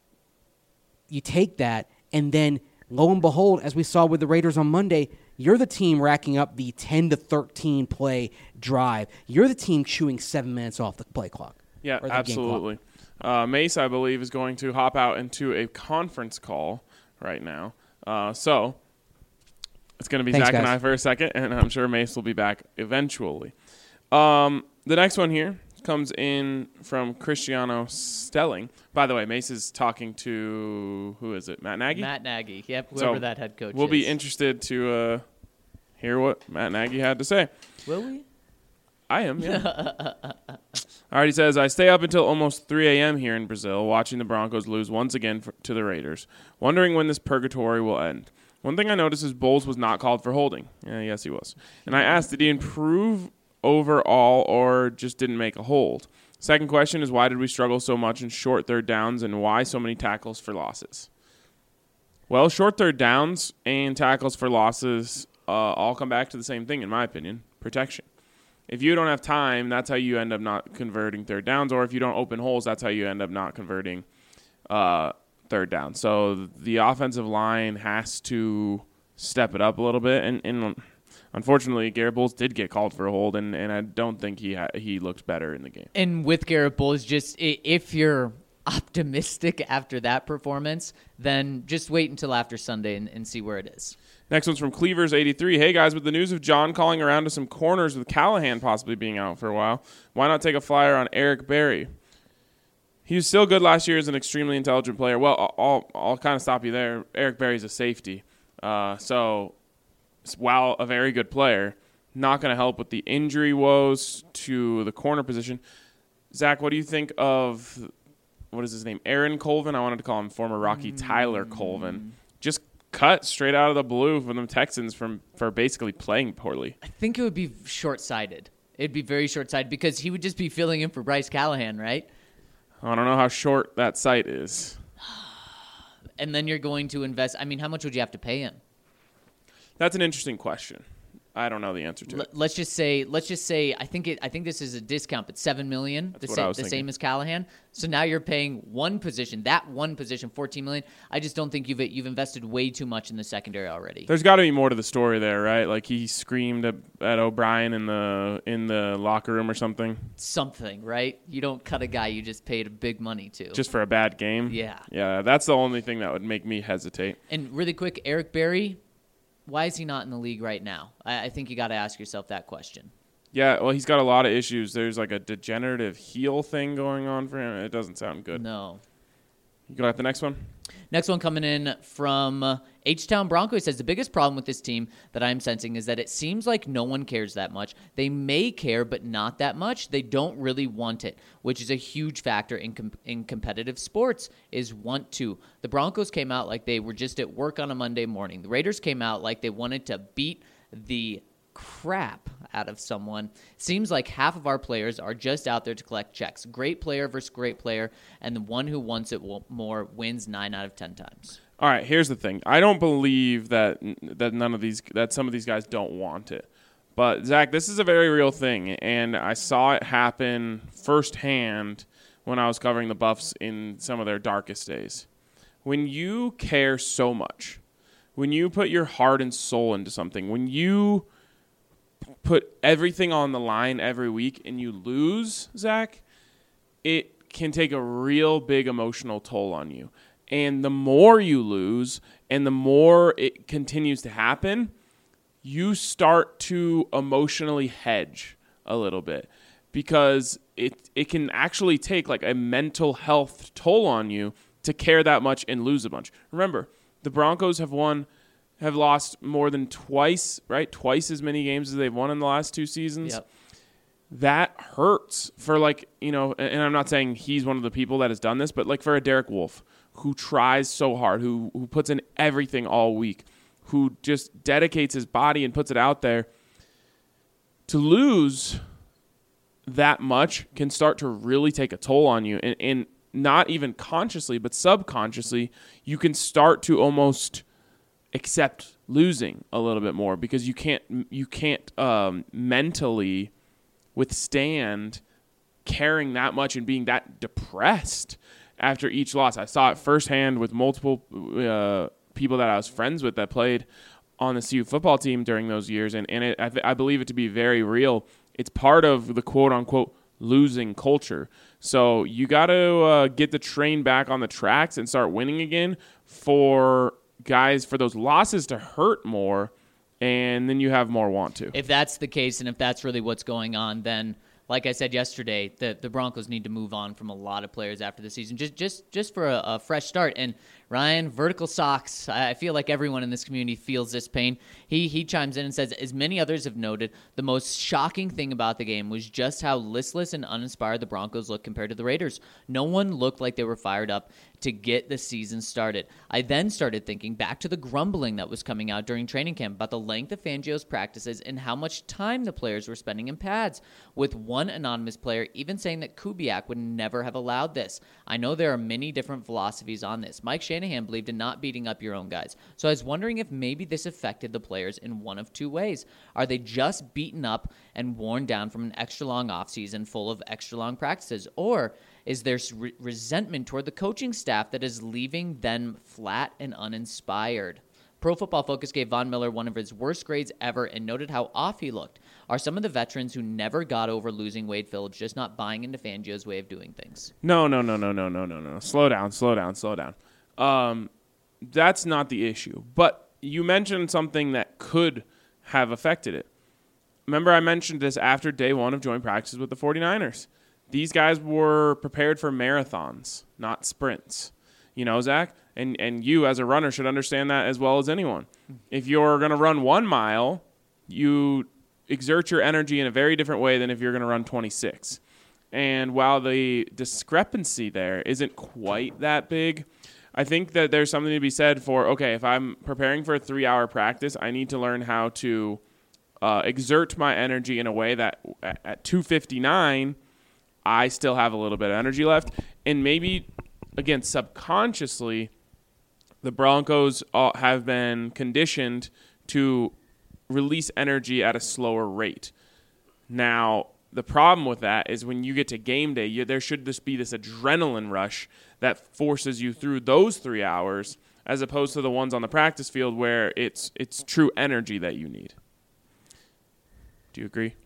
S2: you take that, and then lo and behold, as we saw with the Raiders on Monday, you're the team racking up the ten to thirteen play drive. You're the team chewing seven minutes off the play clock.
S1: Yeah,
S2: or the
S1: absolutely.
S2: game clock.
S1: Uh, Mace, I believe, is going to hop out into a conference call right now. Uh, so it's going to be
S2: Thanks,
S1: Zach and
S2: guys.
S1: I for a second, and I'm sure Mace will be back eventually. Um, the next one here comes in from Cristiano Stelling. By the way, Mace is talking to, who is it, Matt Nagy?
S3: Matt Nagy. Yep, whoever
S1: So
S3: that head coach
S1: We'll
S3: is.
S1: be interested to uh, hear what Matt Nagy had to say.
S3: Will we?
S1: I am, yeah. All right, he says, I stay up until almost three a.m. here in Brazil watching the Broncos lose once again for, to the Raiders, wondering when this purgatory will end. One thing I noticed is Bowles was not called for holding. Yeah, yes, he was. And I asked, did he improve overall or just didn't make a hold? Second question is, why did we struggle so much in short third downs and why so many tackles for losses? Well, short third downs and tackles for losses uh, all come back to the same thing, in my opinion, protection. If you don't have time, that's how you end up not converting third downs. Or if you don't open holes, that's how you end up not converting uh, third down. So the offensive line has to step it up a little bit. And, and unfortunately, Garrett Bowles did get called for a hold, and, and I don't think he ha- he looked better in the game.
S3: And with Garrett Bowles, just i- if you're optimistic after that performance, then just wait until after Sunday and, and see where it is.
S1: Next one's from Cleavers eighty-three. Hey, guys, with the news of John calling around to some corners with Callahan possibly being out for a while, why not take a flyer on Eric Berry? He was still good last year as an extremely intelligent player. Well, I'll, I'll kind of stop you there. Eric Berry's a safety. Uh, so while a very good player, not going to help with the injury woes to the corner position. Zach, what do you think of, what is his name, Aaron Colvin? I wanted to call him former Rocky mm. Tyler Colvin. Just cut straight out of the blue from the Texans from for basically playing poorly.
S3: I think it would be short-sighted. It'd be very short-sighted because he would just be filling in for Bryce Callahan, right?
S1: I don't know how short that sight is.
S3: And then you're going to invest. I mean, how much would you have to pay him?
S1: That's an interesting question. I don't know the answer to
S3: L-
S1: it.
S3: Let's just say, let's just say, I think it. I think this is a discount, but seven million,
S1: That's
S3: the,
S1: what
S3: sa-
S1: I was
S3: the
S1: thinking.
S3: same as Callahan. So now you're paying one position, that one position, fourteen million. I just don't think you've you've invested way too much in the secondary already.
S1: There's got to be more to the story there, right? Like he screamed at, at O'Brien in the in the locker room or something,
S3: Something, right? You don't cut a guy you just paid big money to.
S1: just for a bad game.
S3: Yeah.
S1: yeah. That's the only thing that would make me hesitate.
S3: And really quick, Eric Berry, why is he not in the league right now? I, I think you got to ask yourself that question.
S1: Yeah, well, he's got a lot of issues. There's like a degenerative heel thing going on for him. It doesn't sound good.
S3: No.
S1: You got the next one?
S3: Next one coming in from uh, H-Town Bronco. He says, the biggest problem with this team that I'm sensing is that it seems like no one cares that much. They may care, but not that much. They don't really want it, which is a huge factor in com- in competitive sports, is want to. The Broncos came out like they were just at work on a Monday morning. The Raiders came out like they wanted to beat the crap out of someone. Seems like half of our players are just out there to collect checks. Great player versus great player, and the one who wants it will, more wins nine out of ten times.
S1: All right, here's the thing. I don't believe that that none of these that some of these guys don't want it. But Zach, this is a very real thing, and I saw it happen firsthand when I was covering the Buffs in some of their darkest days. When you care so much, when you put your heart and soul into something, when you put everything on the line every week and you lose, Zach, it can take a real big emotional toll on you. And the more you lose and the more it continues to happen, you start to emotionally hedge a little bit because it it can actually take like a mental health toll on you to care that much and lose a bunch. Remember, the Broncos have won have lost more than twice, right? Twice as many games as they've won in the last two seasons.
S3: Yep.
S1: that hurts for, like, you know, and I'm not saying he's one of the people that has done this, but like for a Derek Wolfe who tries so hard, who who puts in everything all week, who just dedicates his body and puts it out there, to lose that much can start to really take a toll on you. And, and not even consciously, but subconsciously, you can start to almost accept losing a little bit more because you can't you can't um, mentally withstand caring that much and being that depressed after each loss. I saw it firsthand with multiple uh, people that I was friends with that played on the C U football team during those years, and, and it, I, th- I believe it to be very real. It's part of the quote-unquote losing culture. So you got to uh, get the train back on the tracks and start winning again for guys, for those losses to hurt more, and then you have more want to.
S3: If that's the case, and if that's really what's going on, then like I said yesterday, the, the Broncos need to move on from a lot of players after the season, just just just for a, a fresh start. And Ryan, vertical socks, I feel like everyone in this community feels this pain. He he chimes in and says, as many others have noted, the most shocking thing about the game was just how listless and uninspired the Broncos looked compared to the Raiders. No one looked like they were fired up to get the season started. I then started thinking back to the grumbling that was coming out during training camp about the length of Fangio's practices and how much time the players were spending in pads, with one anonymous player even saying that Kubiak would never have allowed this. I know there are many different philosophies on this. Mike Shanahan believed in not beating up your own guys. So I was wondering if maybe this affected the players in one of two ways. Are they just beaten up and worn down from an extra long offseason full of extra long practices? Or is there re- resentment toward the coaching staff that is leaving them flat and uninspired? Pro Football Focus gave Von Miller one of his worst grades ever and noted how off he looked. Are some of the veterans who never got over losing Wade Phillips just not buying into Fangio's way of doing things?
S1: No, no, no, no, no, no, no, no. Slow down, slow down, slow down. Um, that's not the issue. But you mentioned something that could have affected it. Remember I mentioned this after day one of joint practices with the 49ers. These guys were prepared for marathons, not sprints. You know, Zach? And and you as a runner should understand that as well as anyone. If you're going to run one mile, you exert your energy in a very different way than if you're going to run twenty-six. And while the discrepancy there isn't quite that big, I think that there's something to be said for, okay, if I'm preparing for a three-hour practice, I need to learn how to uh, exert my energy in a way that at two fifty-nine, I still have a little bit of energy left. And maybe, again, subconsciously, the Broncos have been conditioned to release energy at a slower rate. Now, the problem with that is when you get to game day, you, there should just be this adrenaline rush that forces you through those three hours as opposed to the ones on the practice field where it's it's true energy that you need. Do you agree?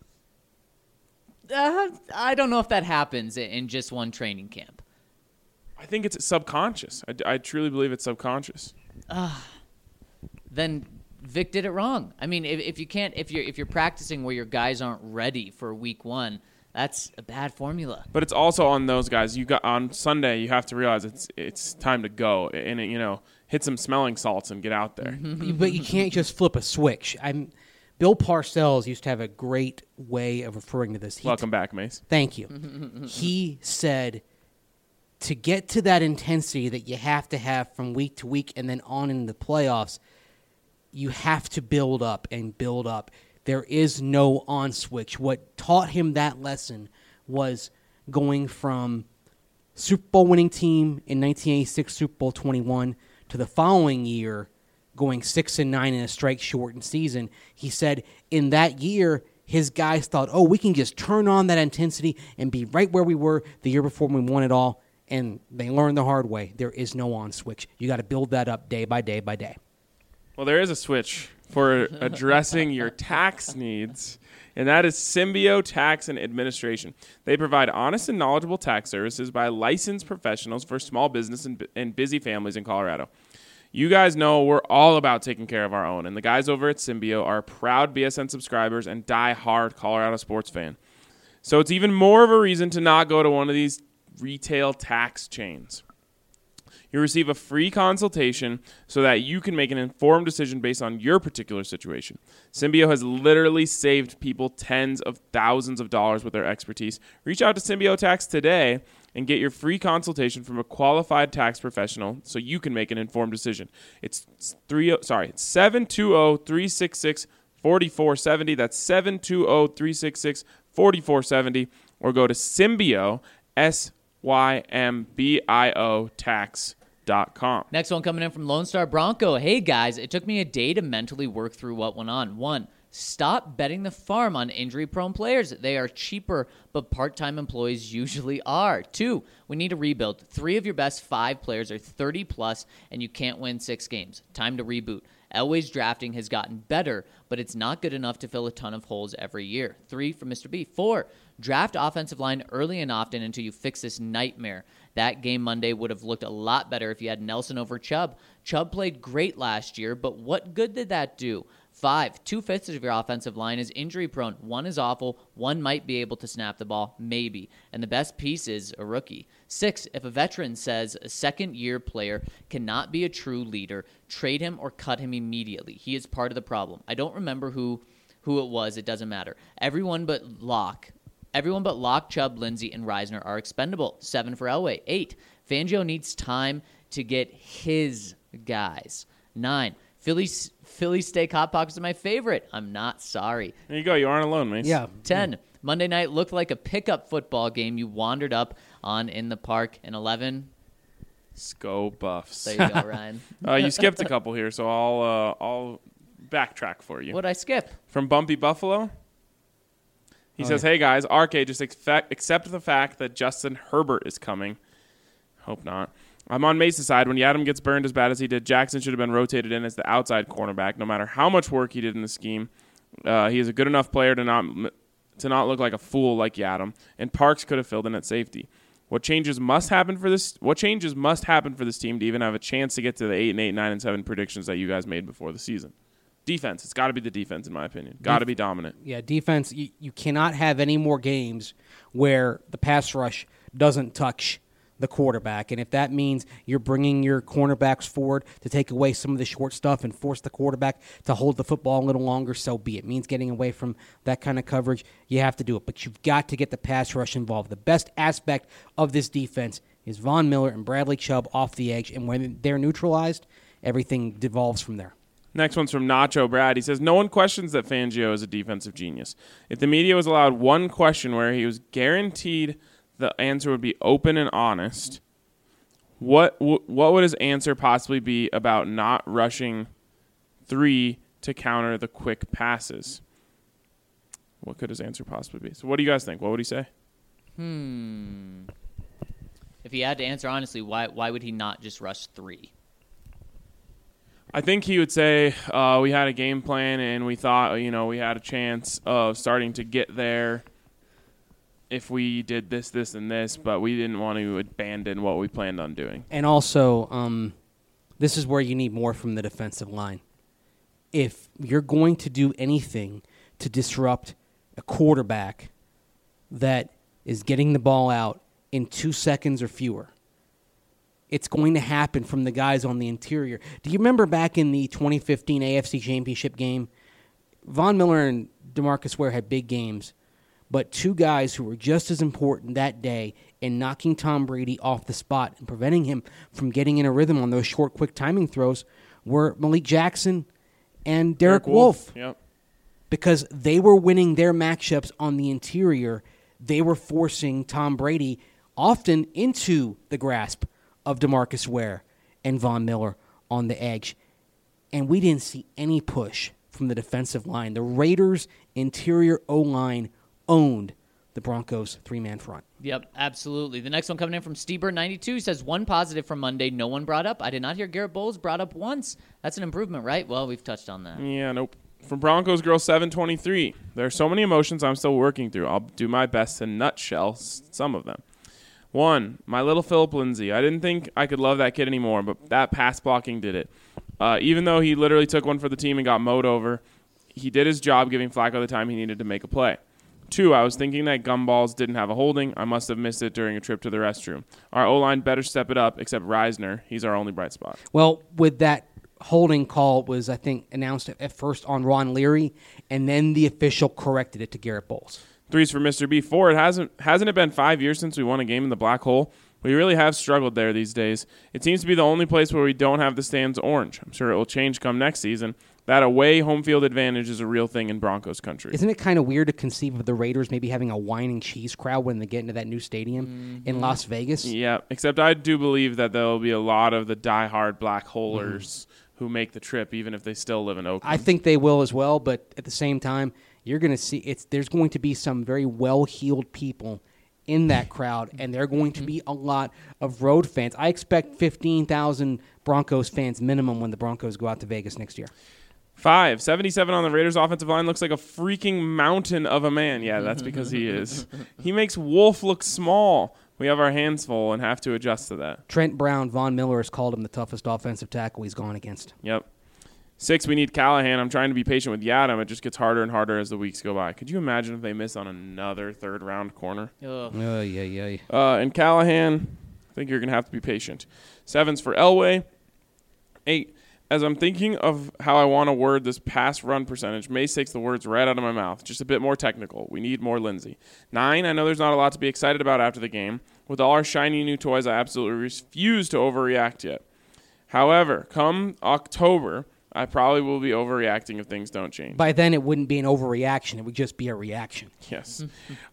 S3: Uh, I don't know if that happens in just one training camp.
S1: I think it's subconscious. I, I truly believe it's subconscious.
S3: Uh, then Vic did it wrong. I mean, if, if you can't, if you're if you're practicing where your guys aren't ready for week one, that's a bad formula.
S1: But it's also on those guys. You got on Sunday. You have to realize it's it's time to go and you know hit some smelling salts and get out there.
S2: But you can't just flip a switch. I'm. Bill Parcells used to have a great way of referring to this. He
S1: Welcome t- back, Mace.
S2: Thank you. He said to get to that intensity that you have to have from week to week and then on in the playoffs, you have to build up and build up. There is no on switch. What taught him that lesson was going from Super Bowl winning team in nineteen eighty-six, Super Bowl twenty-one, to the following year going six and nine in a strike shortened season. He said in that year, his guys thought, oh, we can just turn on that intensity and be right where we were the year before when we won it all. And they learned the hard way. There is no on switch. You got to build that up day by day by day.
S1: Well, there is a switch for addressing your tax needs, and that is Symbio Tax and Administration. They provide honest and knowledgeable tax services by licensed professionals for small business and, and busy families in Colorado. You guys know we're all about taking care of our own, and the guys over at Symbio are proud B S N subscribers and die-hard Colorado sports fan. So it's even more of a reason to not go to one of these retail tax chains. You receive a free consultation so that you can make an informed decision based on your particular situation. Symbio has literally saved people tens of thousands of dollars with their expertise. Reach out to Symbio Tax today and get your free consultation from a qualified tax professional so you can make an informed decision. It's three sorry, it's seven two zero, three six six, four four seven zero. That's seven two zero, three six six, four four seven zero, or go to Symbio, S Y M B I O tax dot com.
S3: Next one coming in from Lone Star Bronco. Hey, guys, it took me a day to mentally work through what went on. One, stop betting the farm on injury-prone players. They are cheaper, but part-time employees usually are. Two, we need a rebuild. Three of your best five players are thirty plus, and you can't win six games. Time to reboot. Elway's drafting has gotten better, but it's not good enough to fill a ton of holes every year. Three from Mister B. Four, draft offensive line early and often until you fix this nightmare. That game Monday would have looked a lot better if you had Nelson over Chubb. Chubb played great last year, but what good did that do? Five, two-fifths of your offensive line is injury-prone. One is awful. One might be able to snap the ball, maybe. And the best piece is a rookie. Six, if a veteran says a second-year player cannot be a true leader, trade him or cut him immediately. He is part of the problem. I don't remember who, who it was. It doesn't matter. Everyone but Locke. Everyone but Locke, Chubb, Lindsey, and Reisner are expendable. Seven for Elway. Eight, Fangio needs time to get his guys. Nine, Philly Philly steak hot pockets are my favorite. I'm not sorry.
S1: There you go. You aren't alone, Mace.
S2: Yeah.
S3: ten, Monday night looked like a pickup football game you wandered up on in the park. And eleven,
S1: Go Buffs.
S3: there you go, Ryan.
S1: uh, you skipped a couple here, so I'll uh, I'll backtrack for you.
S3: What'd I skip?
S1: From Bumpy Buffalo. He
S2: Oh,
S1: says,
S2: yeah.
S1: hey, guys, R K, just expect, accept the fact that Justin Herbert is coming. Hope not. I'm on Mace's side. When Yadam gets burned as bad as he did, Jackson should have been rotated in as the outside cornerback, no matter how much work he did in the scheme. Uh, he is a good enough player to not to not look like a fool like Yadam, and Parks could have filled in at safety. What changes must happen for this? What changes must happen for this team to even have a chance to get to the eight and eight, nine and seven predictions that you guys made before the season? Defense. It's got to be the defense, in my opinion. Got to be dominant.
S2: Yeah, defense, you, you cannot have any more games where the pass rush doesn't touch the quarterback. And if that means you're bringing your cornerbacks forward to take away some of the short stuff and force the quarterback to hold the football a little longer, so be it. It means getting away from that kind of coverage, you have to do it. But you've got to get the pass rush involved. The best aspect of this defense is Von Miller and Bradley Chubb off the edge. And when they're neutralized, everything devolves from there.
S1: Next one's from Nacho Brad. He says, no one questions that Fangio is a defensive genius. If the media was allowed one question where he was guaranteed the answer would be open and honest, what w- what would his answer possibly be about not rushing three to counter the quick passes? What could his answer possibly be? So what do you guys think? What would he say?
S3: Hmm. If he had to answer honestly, why why would he not just rush three?
S1: I think he would say uh, we had a game plan and we thought, you know, we had a chance of starting to get there if we did this, this, and this, but we didn't want to abandon what we planned on doing.
S2: And also, um, this is where you need more from the defensive line. If you're going to do anything to disrupt a quarterback that is getting the ball out in two seconds or fewer, it's going to happen from the guys on the interior. Do you remember back in the twenty fifteen A F C Championship game? Von Miller and DeMarcus Ware had big games, but two guys who were just as important that day in knocking Tom Brady off the spot and preventing him from getting in a rhythm on those short, quick timing throws were Malik Jackson and Derek,
S1: Derek
S2: Wolfe.
S1: Wolfe. Yep.
S2: Because they were winning their matchups on the interior, they were forcing Tom Brady often into the grasp of DeMarcus Ware and Von Miller on the edge. And we didn't see any push from the defensive line. The Raiders' interior O-line owned the Broncos' three-man front.
S3: Yep, absolutely. The next one coming in from Steber ninety-two says, one positive from Monday no one brought up. I did not hear Garrett Bowles brought up once. That's an improvement, right? Well, we've touched on that.
S1: Yeah, nope. From Broncos Girl seven twenty-three, there are so many emotions I'm still working through. I'll do my best to nutshell s- some of them. One, my little Philip Lindsay. I didn't think I could love that kid anymore, but that pass blocking did it. Uh, even though he literally took one for the team and got mowed over, he did his job giving Flacco the time he needed to make a play. Two, I was thinking that Gumballs didn't have a holding. I must have missed it during a trip to the restroom. Our O-line better step it up, except Reisner. He's our only bright spot.
S2: Well, with that holding call was, I think, announced at first on Ron Leary, and then the official corrected it to Garrett Bowles.
S1: Three's for Mister B. Four, it hasn't, hasn't it been five years since we won a game in the black hole? We really have struggled there these days. It seems to be the only place where we don't have the stands orange. I'm sure it will change come next season. That away home field advantage is a real thing in Broncos country.
S2: Isn't it kind of weird to conceive of the Raiders maybe having a wine and cheese crowd when they get into that new stadium mm-hmm. in Las Vegas?
S1: Yeah, except I do believe that there will be a lot of the diehard black holers mm-hmm. who make the trip, even if they still live in Oakland.
S2: I think they will as well, but at the same time, you're going to see it's there's going to be some very well-heeled people in that crowd, and there are going to be a lot of road fans. I expect fifteen thousand Broncos fans minimum when the Broncos go out to Vegas next year.
S1: Five, seventy-seven on the Raiders offensive line looks like a freaking mountain of a man. Yeah, that's because he is. He makes Wolf look small. We have our hands full and have to adjust to that.
S2: Trent Brown, Von Miller has called him the toughest offensive tackle he's gone against.
S1: Yep. Six, we need Callahan. I'm trying to be patient with Yadam. It just gets harder and harder as the weeks go by. Could you imagine if they miss on another third-round corner?
S3: Ugh.
S2: Oh, yeah, yeah.
S1: Uh, and Callahan, I think you're going to have to be patient. Seven's for Elway. Eight, as I'm thinking of how I want to word this pass run percentage, Mace takes the words right out of my mouth. Just a bit more technical. We need more Lindsey. Nine, I know there's not a lot to be excited about after the game. With all our shiny new toys, I absolutely refuse to overreact yet. However, come October, I probably will be overreacting if things don't change.
S2: By then, it wouldn't be an overreaction. It would just be a reaction.
S1: Yes.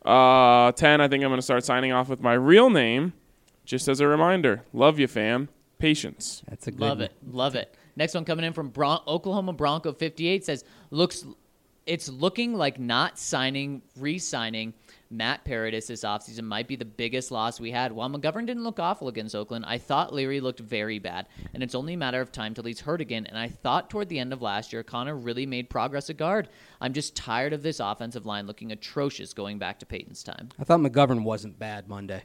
S1: uh, ten, I think I'm going to start signing off with my real name, just as a reminder. Love you, fam. Patience.
S2: That's a good
S3: Love
S2: one.
S3: it. Love it. Next one coming in from Bron- Oklahoma Bronco fifty-eight says, looks, it's looking like not signing, re-signing Matt Paradis this offseason might be the biggest loss we had. While McGovern didn't look awful against Oakland, I thought Leary looked very bad, and it's only a matter of time till he's hurt again. And I thought toward the end of last year, Connor really made progress at guard. I'm just tired of this offensive line looking atrocious going back to Peyton's time.
S2: I thought McGovern wasn't bad Monday.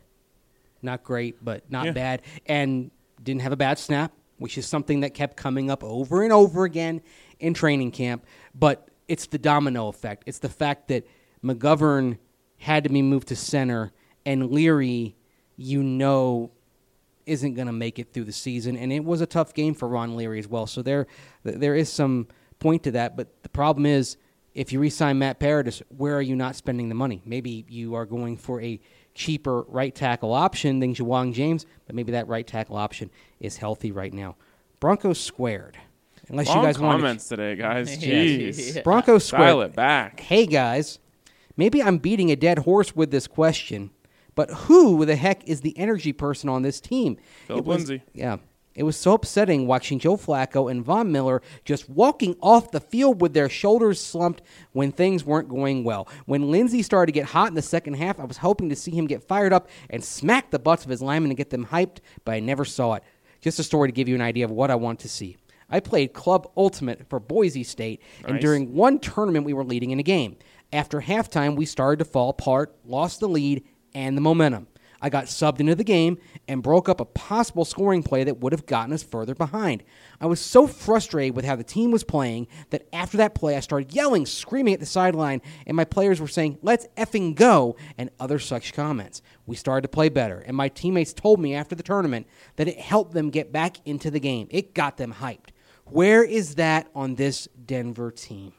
S2: Not great, but not
S1: Yeah.
S2: bad. And didn't have a bad snap, which is something that kept coming up over and over again in training camp. But it's the domino effect. It's the fact that McGovern had to be moved to center, and Leary, you know, isn't going to make it through the season. And it was a tough game for Ron Leary as well. So there, there is some point to that. But the problem is, if you re-sign Matt Paradis, where are you not spending the money? Maybe you are going for a cheaper right tackle option than Jawang James, but maybe that right tackle option is healthy right now. Broncos squared. Unless
S1: Long
S2: you guys want
S1: comments today, guys.
S3: Yeah.
S1: Jeez.
S3: Yeah.
S2: Broncos squared.
S1: Dial it back.
S2: Hey guys, maybe I'm beating a dead horse with this question, but who the heck is the energy person on this team?
S1: Philip
S2: It was-
S1: Lindsay.
S2: Yeah. It was so upsetting watching Joe Flacco and Von Miller just walking off the field with their shoulders slumped when things weren't going well. When Lindsey started to get hot in the second half, I was hoping to see him get fired up and smack the butts of his linemen and get them hyped, but I never saw it. Just a story to give you an idea of what I want to see. I played Club Ultimate for Boise State, and
S1: Nice.
S2: during one tournament we were leading in a game. After halftime, we started to fall apart, lost the lead and the momentum. I got subbed into the game and broke up a possible scoring play that would have gotten us further behind. I was so frustrated with how the team was playing that after that play I started yelling, screaming at the sideline, and my players were saying, "Let's effing go," and other such comments. We started to play better, and my teammates told me after the tournament that it helped them get back into the game. It got them hyped. Where is that on this Denver team?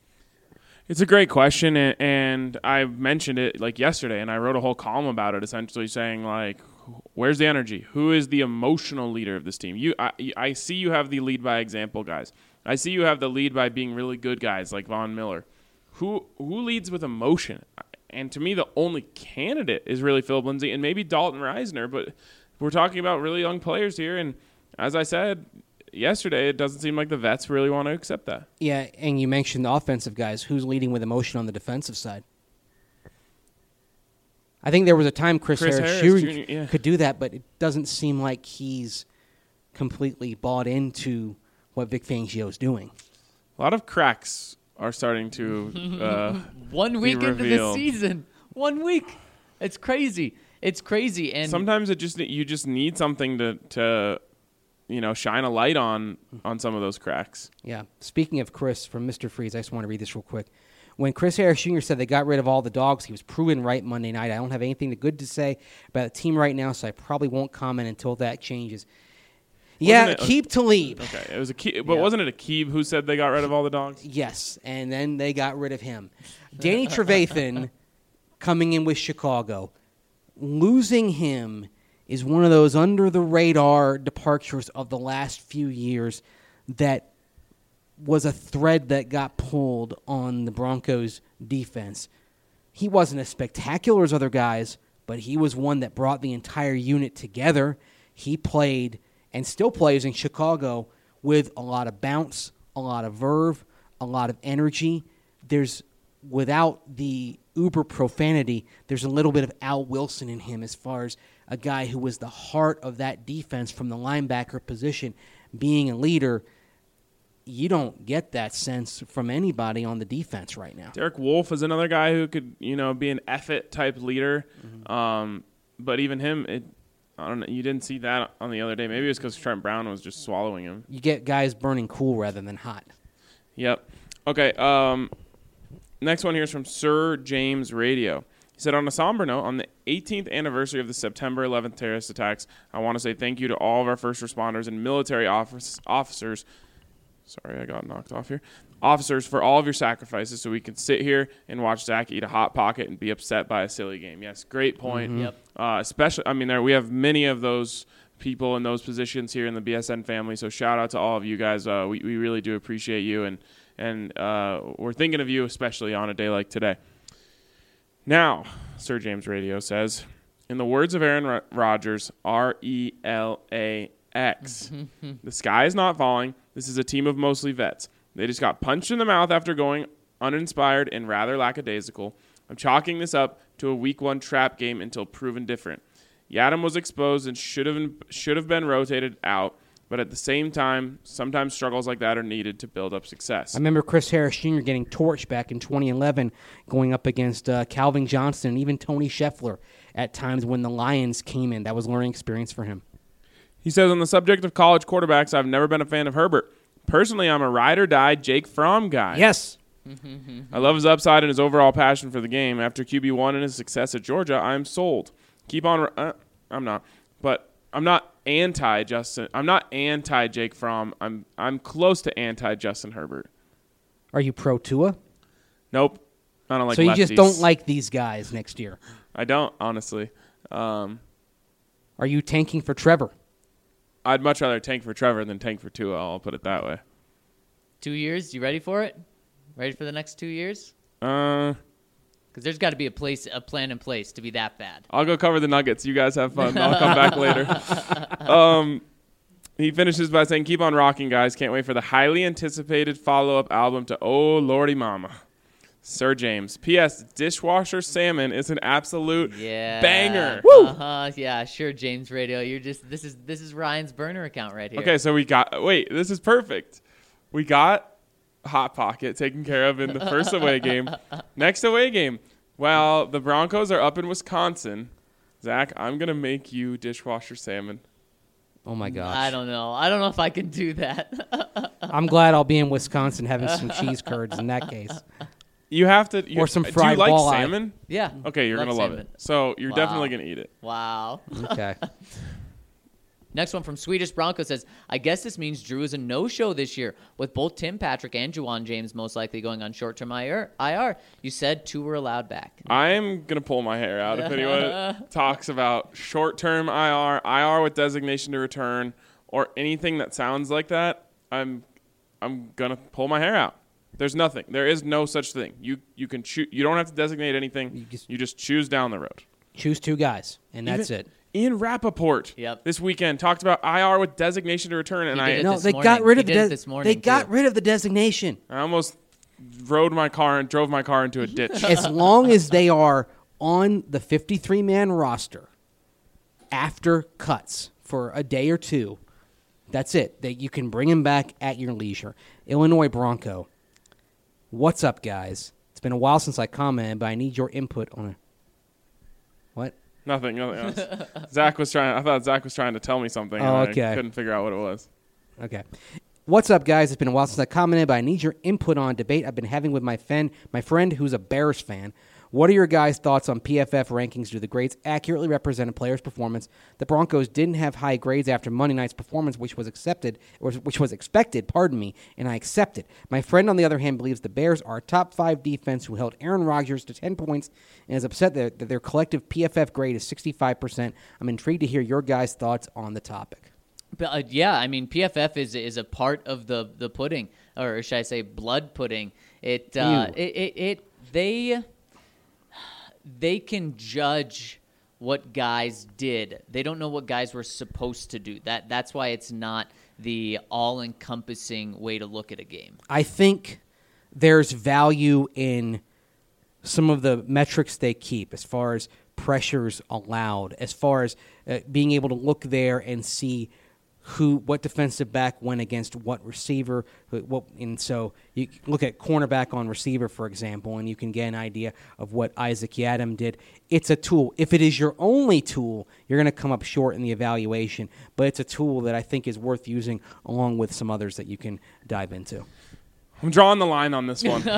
S1: It's a great question, and, and I mentioned it like yesterday, and I wrote a whole column about it, essentially saying like, where's the energy? Who is the emotional leader of this team? You, I, I see you have the lead by example guys. I see you have the lead by being really good guys like Von Miller. Who who leads with emotion? And to me, the only candidate is really Philip Lindsay and maybe Dalton Reisner, but we're talking about really young players here, and as I said yesterday, it doesn't seem like the vets really want to accept that.
S2: Yeah, and you mentioned the offensive guys. Who's leading with emotion on the defensive side? I think there was a time Chris,
S1: Chris
S2: Harris,
S1: Harris
S2: Junior
S1: Junior, yeah.
S2: could do that, but it doesn't seem like he's completely bought into what Vic Fangio's doing.
S1: A lot of cracks are starting to uh,
S3: One
S1: be
S3: week into the
S1: revealed.
S3: season. One week. It's crazy. It's crazy. And
S1: Sometimes it just you just need something to to you know shine a light on on some of those cracks.
S2: Yeah. Speaking of Chris from Mister Freeze, I just want to read this real quick. when Chris Harris Junior said they got rid of all the dogs, he was proven right Monday night. I don't have anything good to say about the team right now, so I probably won't comment until that changes. Yeah,
S1: it a-
S2: keep Talib.
S1: Okay, it was a Ke- but
S2: Yeah.
S1: wasn't it Akib who said they got rid of all the dogs?
S2: Yes, and then they got rid of him. Danny Trevathan coming in with Chicago. Losing him is one of those under-the-radar departures of the last few years that was a thread that got pulled on the Broncos' defense. He wasn't as spectacular as other guys, but he was one that brought the entire unit together. He played and still plays in Chicago with a lot of bounce, a lot of verve, a lot of energy. There's, without the uber profanity, there's a little bit of Al Wilson in him as far as a guy who was the heart of that defense from the linebacker position, being a leader. You don't get that sense from anybody on the defense right now.
S1: Derek Wolfe is another guy who could, you know, be an F-it type leader.
S2: Mm-hmm.
S1: Um, but even him, it, I don't know. You didn't see that on the other day. Maybe it was because Trent Brown was just swallowing him.
S2: You get guys burning cool rather than hot.
S1: Yep. Okay. Um, next one here is from Sir James Radio. He said, on a somber note, on the eighteenth anniversary of the September eleventh terrorist attacks, I want to say thank you to all of our first responders and military office, officers. Sorry, I got knocked off here. Officers, for all of your sacrifices so we can sit here and watch Zach eat a Hot Pocket and be upset by a silly game. Yes, great point.
S3: Yep.
S1: Uh, especially, I mean, there we have many of those people in those positions here in the B S N family, so shout out to all of you guys. Uh, we, we really do appreciate you, and, and uh, we're thinking of you, especially on a day like today. Now, Sir James Radio says, in the words of Aaron Rodgers, R E L A X, the sky is not falling. This is a team of mostly vets. They just got punched in the mouth after going uninspired and rather lackadaisical. I'm chalking this up to a week one trap game until proven different. Yadam was exposed and should have should have been rotated out, but at the same time, sometimes struggles like that are needed to build up success.
S2: I remember Chris Harris Junior getting torched back in twenty eleven going up against uh, Calvin Johnson and even Tony Scheffler at times when the Lions came in. That was learning experience for him.
S1: He says, on the subject of college quarterbacks, I've never been a fan of Herbert. Personally, I'm a ride-or-die Jake Fromm guy.
S2: Yes.
S1: I love his upside and his overall passion for the game. After Q B one and his success at Georgia, I'm sold. Keep on. Uh, I'm not, but I'm not anti Justin. I'm not anti Jake Fromm. I'm I'm close to anti Justin Herbert.
S2: Are you pro Tua?
S1: Nope. I don't like.
S2: So you just
S1: lefties.
S2: don't like these guys next year?
S1: I don't, honestly. Um,
S2: Are you tanking for Trevor?
S1: I'd much rather tank for Trevor than tank for Tua. I'll put it that way.
S3: Two years? You ready for it? Ready for the next two years?
S1: Uh,
S3: Because there's got to be a place, a plan in place to be that bad.
S1: I'll go cover the Nuggets. You guys have fun. I'll come back later. Um, he finishes by saying, keep on rocking, guys. Can't wait for the highly anticipated follow-up album to Oh Lordy Mama. Sir James. P S. Dishwasher Salmon is an absolute
S3: Yeah.
S1: banger.
S3: Uh-huh. Yeah, sure, James Radio. You're just this is this is Ryan's burner account right here.
S1: Okay, so we got – wait, this is perfect. We got Hot Pocket taken care of in the first away game. Next away game, while the Broncos are up in Wisconsin, Zach, I'm going to make you dishwasher salmon.
S2: Oh, my gosh.
S3: I don't know. I don't know if I can do that.
S2: I'm glad I'll be in Wisconsin having some cheese curds in that case.
S1: You have to you,
S2: Or some
S1: Do you
S2: fried
S1: like
S2: walleye.
S1: salmon?
S3: Yeah.
S1: Okay, you're
S3: Love
S1: gonna love
S3: salmon.
S1: it. So you're
S3: Wow.
S1: definitely gonna eat it.
S3: Wow.
S2: Okay.
S3: Next one from Swedish Bronco says, I guess this means Drew is a no-show this year, with both Tim Patrick and Juwan James most likely going on short-term I R. You said two were allowed back.
S1: I'm gonna pull my hair out if anyone talks about short-term I R, I R with designation to return, or anything that sounds like that. I'm I'm gonna pull my hair out. There's nothing. There is no such thing. You you can choose. You don't have to designate anything.
S2: You just-
S1: You just choose down the road.
S2: Choose two guys, and that's
S1: Even-
S2: it.
S1: Ian Rappaport
S3: Yep.
S1: this weekend talked about I R with designation to return, and
S3: He
S1: I
S3: did it
S2: No,
S3: this
S2: they
S3: morning.
S2: got rid of
S3: He
S2: the
S3: did it
S2: de-
S3: this morning,
S2: They got
S3: too.
S2: rid of the designation.
S1: I almost rode my car and drove my car into a ditch.
S2: As long as they are on the fifty-three man roster after cuts for a day or two, that's it. That you can bring him back at your leisure. Illinois Bronco. What's up, guys? It's been a while since I commented, but I need your input on it. What?
S1: Nothing, nothing else. Zach was trying. I thought Zach was trying to tell me something, and
S2: Oh,
S1: I
S2: okay.
S1: couldn't figure out what it was.
S2: Okay. What's up, guys? It's been a while since I commented, but I need your input on a debate I've been having with my friend, my friend who's a Bears fan. What are your guys' thoughts on P F F rankings? Do the grades accurately represent a player's performance? The Broncos didn't have high grades after Monday night's performance, which was accepted, or which was expected, pardon me, and I accept it. My friend, on the other hand, believes the Bears are a top five defense who held Aaron Rodgers to ten points and is upset that, that their collective P F F grade is sixty-five percent. I'm intrigued to hear your guys' thoughts on the topic.
S3: But, uh, yeah, I mean, P F F is is a part of the, the pudding, or should I say blood pudding. It, uh, it, it, it, they... They can judge what guys did. They don't know what guys were supposed to do. That That's why it's not the all-encompassing way to look at a game.
S2: I think there's value in some of the metrics they keep as far as pressures allowed, as far as uh, being able to look there and see who, what defensive back went against what receiver. What, and so you look at cornerback on receiver, for example, and you can get an idea of what Isaac Yiadom did. It's a tool. If it is your only tool, you're going to come up short in the evaluation, but it's a tool that I think is worth using along with some others that you can dive into.
S1: I'm drawing the line on this one.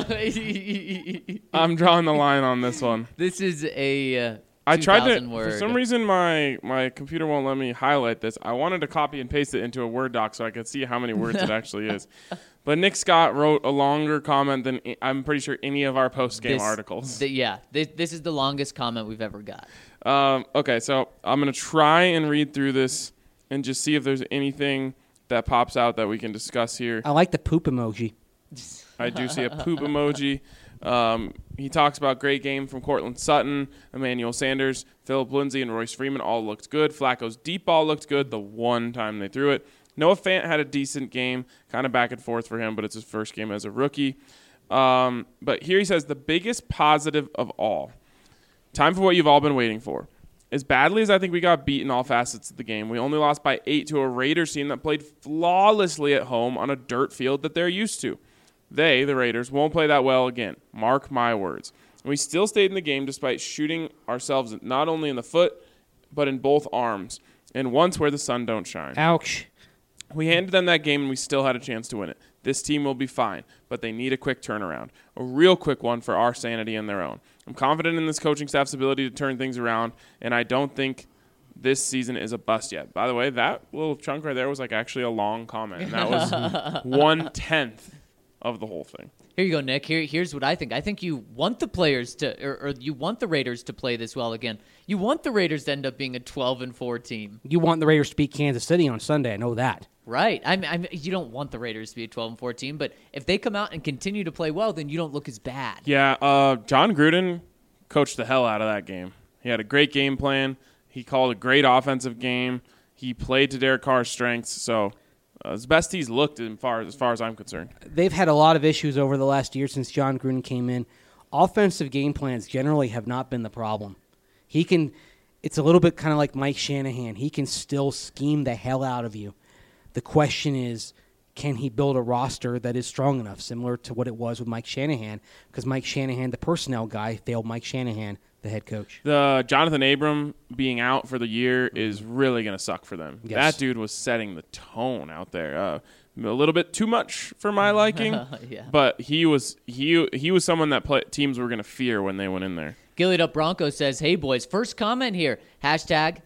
S1: I'm drawing the line on this one.
S3: This is a... Uh,
S1: I tried to,
S3: word.
S1: for some reason my, my computer won't let me highlight this. I wanted to copy and paste it into a Word doc so I could see how many words it actually is. But Nick Scott wrote a longer comment than I'm pretty sure any of our post-game
S3: This-
S1: articles.
S3: The, yeah, this, this is the longest comment we've ever got.
S1: Um, okay, so I'm going to try and read through this and just see if there's anything that pops out that we can discuss here.
S2: I like the poop emoji.
S1: I do see a poop emoji. Um, he talks about great game from Cortland Sutton, Emmanuel Sanders, Phillip Lindsay, and Royce Freeman all looked good. Flacco's deep ball looked good the one time they threw it. Noah Fant had a decent game, kind of back and forth for him, but it's his first game as a rookie. Um, but here he says the biggest positive of all, time for what you've all been waiting for. As badly as I think we got beat in all facets of the game, we only lost by eight to a Raiders team that played flawlessly at home on a dirt field that they're used to. They, the Raiders, won't play that well again. Mark my words. And we still stayed in the game despite shooting ourselves not only in the foot, but in both arms, and once where the sun don't shine.
S2: Ouch.
S1: We handed them that game, and we still had a chance to win it. This team will be fine, but they need a quick turnaround, a real quick one for our sanity and their own. I'm confident in this coaching staff's ability to turn things around, and I don't think this season is a bust yet. By the way, that little chunk right there was like actually a long comment, and that was one-tenth of the whole thing.
S3: Here you go, Nick. Here, here's what I think. I think you want the players to, or, or you want the Raiders to play this well again. You want the Raiders to end up being a twelve and four team.
S2: You want the Raiders to beat Kansas City on Sunday. I know that.
S3: Right. I mean, I mean, you don't want the Raiders to be a twelve and four team, but if they come out and continue to play well, then you don't look as bad.
S1: Yeah, uh, John Gruden coached the hell out of that game. He had a great game plan. He called a great offensive game. He played to Derek Carr's strengths, so uh, as best he's looked as far, as far as I'm concerned.
S2: They've had a lot of issues over the last year since John Gruden came in. Offensive game plans generally have not been the problem. He can, it's a little bit kind of like Mike Shanahan. He can still scheme the hell out of you. The question is, can he build a roster that is strong enough, similar to what it was with Mike Shanahan? Because Mike Shanahan, the personnel guy, failed Mike Shanahan, the head coach.
S1: The Jonathan Abram being out for the year is really going to suck for them.
S2: Yes.
S1: That dude was setting the tone out there. Uh, a little bit too much for my liking,
S3: Yeah.
S1: but he was he he was someone that play, teams were going to fear when they went in there.
S3: Gillied Up Bronco says, hey, boys, first comment here. Hashtag,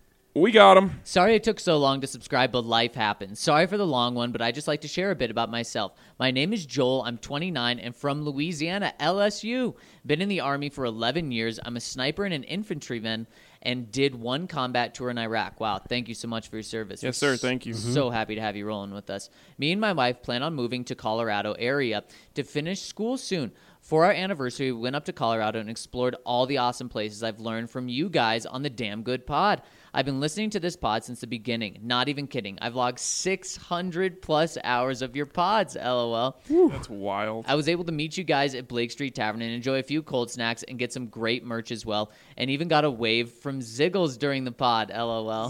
S1: We got him.
S3: sorry it took so long to subscribe, but life happens. Sorry for the long one, but I just like to share a bit about myself. My name is Joel. I'm twenty-nine and from Louisiana, L S U. Been in the Army for eleven years. I'm a sniper and an infantryman and did one combat tour in Iraq. Wow, thank you so much for your service.
S1: Yes,
S3: We're
S1: sir. Thank you.
S3: So happy to have you rolling with us. Me and my wife plan on moving to Colorado area to finish school soon. For our anniversary, we went up to Colorado and explored all the awesome places I've learned from you guys on the Damn Good Pod. I've been listening to this pod since the beginning. Not even kidding. I've logged six hundred plus hours of your pods, LOL.
S1: That's wild.
S3: I was able to meet you guys at Blake Street Tavern and enjoy a few cold snacks and get some great merch as well. And even got a wave from Ziggles during the pod, LOL.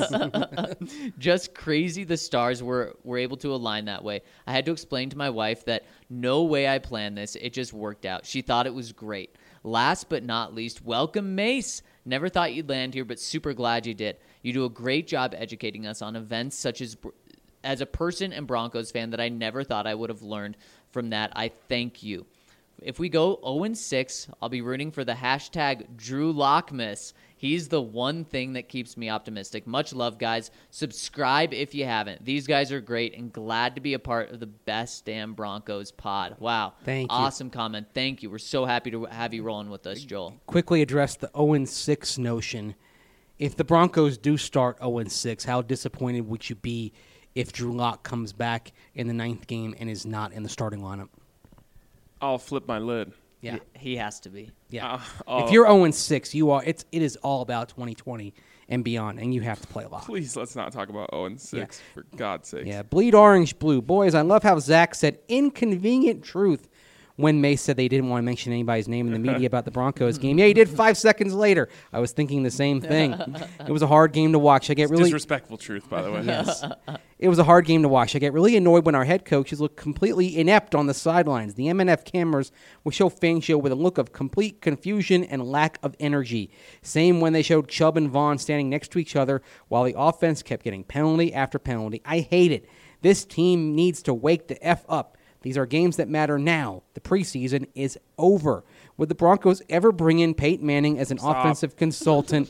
S1: Ziggles.
S3: Just crazy the stars were, were able to align that way. I had to explain to my wife that no way I planned this. It just worked out. She thought it was great. Last but not least, welcome Mace. Never thought you'd land here, but super glad you did. You do a great job educating us on events such as as a person and Broncos fan that I never thought I would have learned from that. I thank you. If we go oh and six, I'll be rooting for the hashtag Drew Lockmas. He's the one thing that keeps me optimistic. Much love, guys. Subscribe if you haven't. These guys are great and glad to be a part of the best damn Broncos pod. Wow.
S2: Thank you.
S3: Awesome comment. Thank you. We're so happy to have you rolling with us, Joel.
S2: Quickly address the oh and six notion. If the Broncos do start oh and six, how disappointed would you be if Drew Lock comes back in the ninth game and is not in the starting lineup?
S1: I'll flip my lid.
S2: Yeah.
S3: He has to be.
S2: Yeah.
S1: Uh, oh,
S2: If you're oh and six, you are it's it is all about twenty twenty and beyond, and you have to play a lot.
S1: please, let's not talk about oh and six, for God's sake.
S2: Yeah, bleed orange blue. Boys, I love how Zach said inconvenient truth when Mace said they didn't want to mention anybody's name in the media about the Broncos game. Yeah, he did five seconds later. I was thinking the same thing. It was a hard game to watch. I get really
S1: Disrespectful truth, by the way.
S2: Yes. It was a hard game to watch. I get really annoyed when our head coaches look completely inept on the sidelines. The M N F cameras will show Fangio with a look of complete confusion and lack of energy. Same when they showed Chubb and Vaughn standing next to each other while the offense kept getting penalty after penalty. I hate it. This team needs to wake the F up. These are games that matter now. The preseason is over. Would the Broncos ever bring in Peyton Manning as an
S1: Stop.
S2: offensive consultant?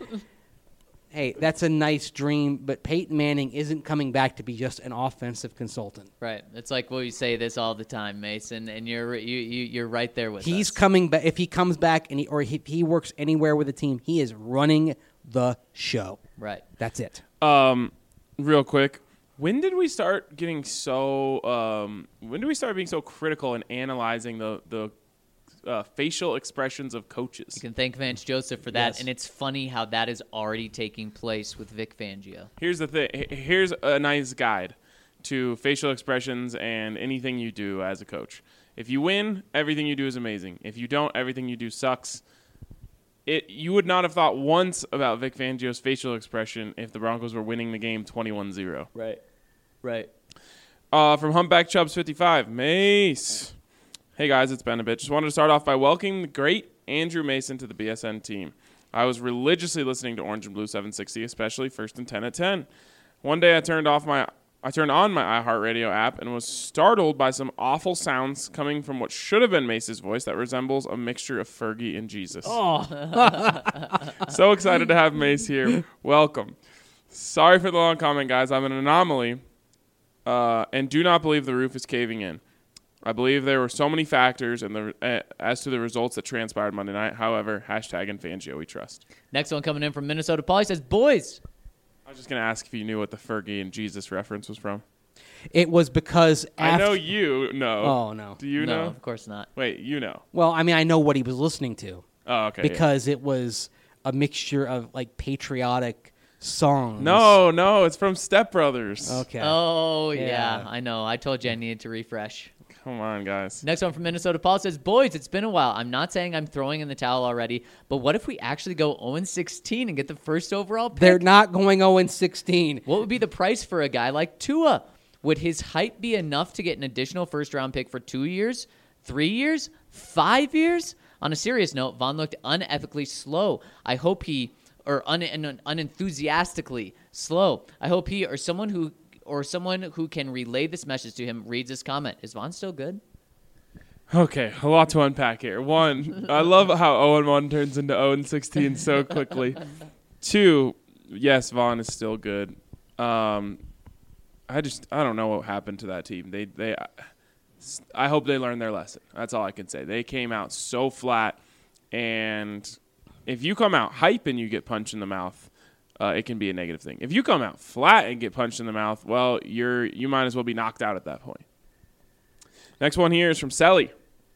S2: Hey, that's a nice dream, but Peyton Manning isn't coming back to be just an offensive consultant.
S3: Right. It's like, well, you say this all the time, Mason, and you're you, you you're right there with
S2: He's
S3: us.
S2: coming back. If he comes back and he, or he, he works anywhere with the team, he is running the show.
S3: Right.
S2: That's it.
S1: Um, real quick, when did we start getting so? Um, when did we start being so critical and analyzing the the uh, facial expressions of coaches?
S3: You can thank Vance Joseph for that,
S2: Yes.
S3: and it's funny how that is already taking place with Vic Fangio.
S1: Here's the thing. H- Here's a nice guide to facial expressions and anything you do as a coach. If you win, everything you do is amazing. If you don't, everything you do sucks. It you would not have thought once about Vic Fangio's facial expression if the Broncos were winning the game twenty-one zero.
S3: Right. Right.
S1: Uh, from Humpback Chubbs fifty-five, Mace. Hey guys, it's Ben a bit. Just wanted to start off by welcoming the great Andrew Mason to the B S N team. I was religiously listening to Orange and Blue seven sixty, especially First and ten at ten. One day I turned off my I turned on my iHeartRadio app and was startled by some awful sounds coming from what should have been Mace's voice that resembles a mixture of Fergie and Jesus.
S3: Oh.
S1: So excited to have Mace here. Welcome. Sorry for the long comment, guys. I'm an anomaly uh, and do not believe the roof is caving in. I believe there were so many factors and the uh, as to the results that transpired Monday night. However, hashtag and Fangio we trust.
S3: Next one coming in from Minnesota. Paulie says, boys.
S1: I was just going to ask if you knew what the Fergie and Jesus reference was from.
S2: It was because
S1: I
S2: after,
S1: know you know.
S2: Oh, no.
S1: Do you
S3: no,
S1: know?
S3: of course not.
S1: Wait, you know.
S2: Well, I mean, I know what he was listening to
S1: Oh, okay. yeah.
S2: because it was a mixture of like patriotic songs.
S1: No, no, it's from Step Brothers.
S2: Okay.
S3: Oh, yeah.
S2: Yeah.
S3: I know. I told you I needed to refresh.
S1: Come on, guys.
S3: Next one from Minnesota. Paul says, boys, it's been a while. I'm not saying I'm throwing in the towel already, but what if we actually go oh and sixteen and get the first overall pick?
S2: They're not going oh and sixteen.
S3: What would be the price for a guy like Tua? Would his hype be enough to get an additional first-round pick for two years, three years, five years? On a serious note, Vaughn looked unethically slow. I hope he, or un, un, unenthusiastically slow. I hope he or someone who or someone who can relay this message to him reads this comment. Is Vaughn still good?
S1: Okay, a lot to unpack here. One, I love how oh and one turns into oh and sixteen so quickly. Two, yes, Vaughn is still good. Um, I just I don't know what happened to that team. They they I hope they learned their lesson. That's all I can say. They came out so flat, and if you come out hype and you get punched in the mouth, uh, it can be a negative thing. If you come out flat and get punched in the mouth, well, you're you might as well be knocked out at that point. Next one here is from Selly.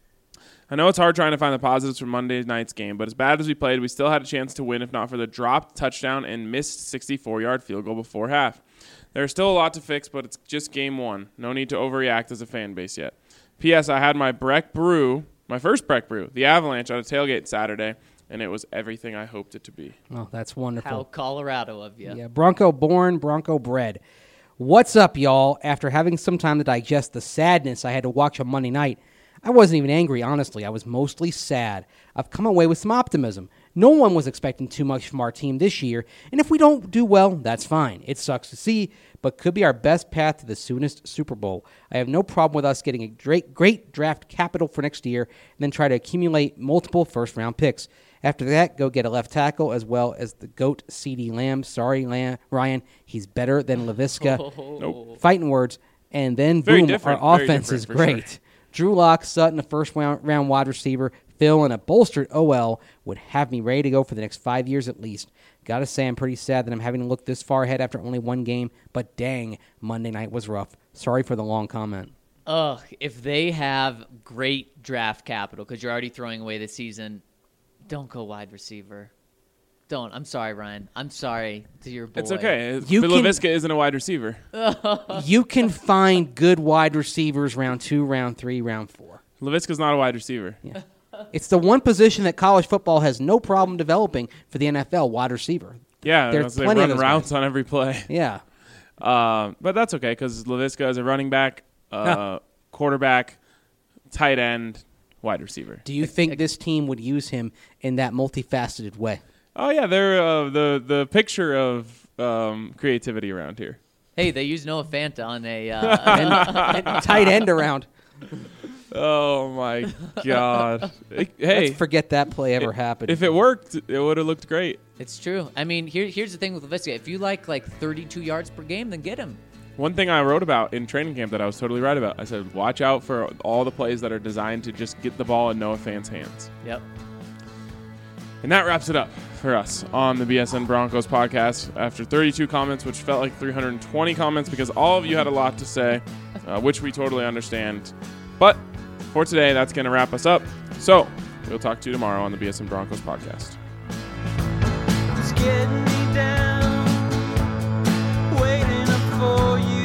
S1: I know it's hard trying to find the positives from Monday night's game, but as bad as we played, we still had a chance to win if not for the dropped touchdown and missed sixty-four-yard field goal before half. There's still a lot to fix, but it's just game one. No need to overreact as a fan base yet. P S. I had my Breck Brew, my first Breck Brew, the Avalanche, at a tailgate Saturday, and it was everything I hoped it to be.
S2: Oh, that's wonderful.
S3: How Colorado of you.
S2: Yeah, Bronco born, Bronco bred. What's up, y'all? After having some time to digest the sadness I had to watch on Monday night, I wasn't even angry, honestly. I was mostly sad. I've come away with some optimism. No one was expecting too much from our team this year, and if we don't do well, that's fine. It sucks to see, but could be our best path to the soonest Super Bowl. I have no problem with us getting a great, great draft capital for next year and then try to accumulate multiple first-round picks. After that, go get a left tackle as well as the GOAT CeeDee Lamb. Sorry, Lamb, Ryan, he's better than Laviska.
S1: Nope.
S2: Fighting words. And then,
S1: Very
S2: boom,
S1: different,
S2: our
S1: very
S2: offense is
S1: different, for
S2: great.
S1: sure.
S2: Drew Lock, Sutton, a first-round round wide receiver, Phil, and a bolstered O L would have me ready to go for the next five years at least. Gotta say, I'm pretty sad that I'm having to look this far ahead after only one game, but dang, Monday night was rough. Sorry for the long comment.
S3: Ugh, if they have great draft capital, because you're already throwing away the season, don't go wide receiver. Don't. I'm sorry, Ryan. I'm sorry to your boy.
S1: It's okay.
S2: You
S1: Phil
S2: can-
S1: Laviska isn't a wide receiver.
S2: You can find good wide receivers round two, round three, round four.
S1: Laviska's not a wide receiver.
S2: Yeah. It's the one position that college football has no problem developing for the N F L, wide receiver.
S1: Yeah,
S2: There's
S1: they
S2: plenty of
S1: run
S2: those
S1: routes
S2: guys.
S1: on every play.
S2: Yeah.
S1: Uh, but that's okay because Laviska is a running back, uh, quarterback, tight end, wide receiver.
S2: Do you think this team would use him in that multifaceted way?
S1: Oh yeah, they're uh, the the picture of um, creativity around here.
S3: Hey, they used Noah Fant on a. Uh,
S2: And, and tight end around.
S1: Oh my God! Hey,
S2: Let's forget that play ever happened.
S1: if it worked, it would have looked great.
S3: it's true. I mean, here, here's the thing with Laviska. If you like like thirty-two yards per game, then get him.
S1: One thing I wrote about in training camp that I was totally right about. I said, watch out for all the plays that are designed to just get the ball in Noah Fant's hands.
S3: Yep.
S1: And that wraps it up for us on the B S N Broncos podcast. After thirty-two comments, which felt like three hundred twenty comments because all of you had a lot to say, uh, which we totally understand. But for today, that's going to wrap us up. So we'll talk to you tomorrow on the B S N Broncos podcast.
S4: It's getting me down, waiting up for you.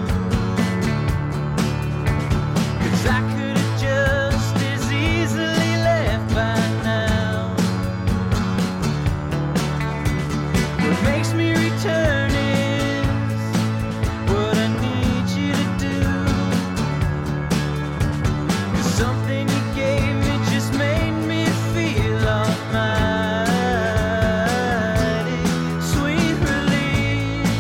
S4: 'Cause I could have just as easily left by now. What makes me return is what I need you to do. 'Cause something you gave me just made me feel almighty. Sweet release.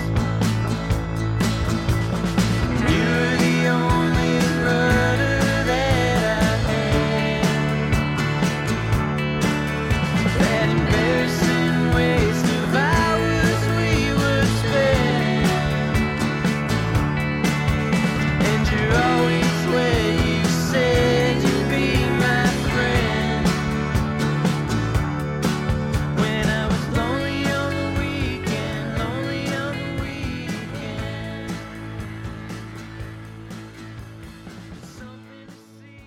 S4: You're the only rudder that I had. That embarrassing waste of hours we would spend. And you're always where you said you'd be my friend. When I was lonely on the weekend, lonely on the weekend. Something to see.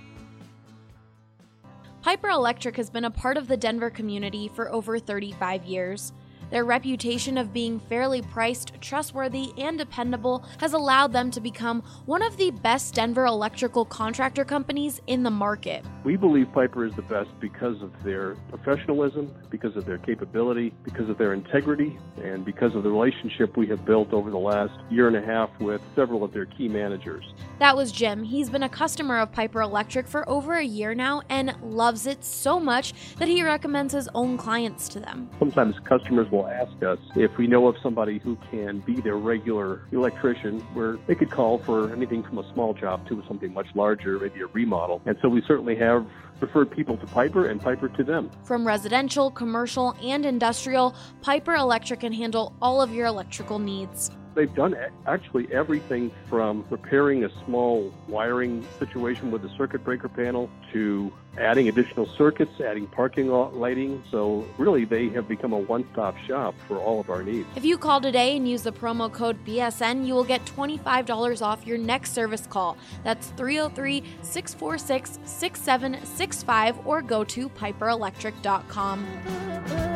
S5: Piper Electric has been a part of the Denver community for over thirty-five years. Their reputation of being fairly priced, trustworthy, and dependable has allowed them to become one of the best Denver electrical contractor companies in the market.
S7: We believe Piper is the best because of their professionalism, because of their capability, because of their integrity, and because of the relationship we have built over the last year and a half with several of their key managers.
S5: That was Jim. He's been a customer of Piper Electric for over a year now and loves it so much that he recommends his own clients to them.
S7: Sometimes customers will ask us if we know of somebody who can be their regular electrician, where they could call for anything from a small job to something much larger, maybe a remodel. And so we certainly have referred people to Piper and Piper to them.
S5: From residential, commercial, and industrial, Piper Electric can handle all of your electrical needs.
S7: They've done a- actually everything from repairing a small wiring situation with a circuit breaker panel to adding additional circuits, adding parking lot lighting. So really, they have become a one-stop shop for all of our needs.
S5: If you call today and use the promo code B S N, you will get twenty-five dollars off your next service call. That's three oh three, six four six, six seven six five or go to piper electric dot com.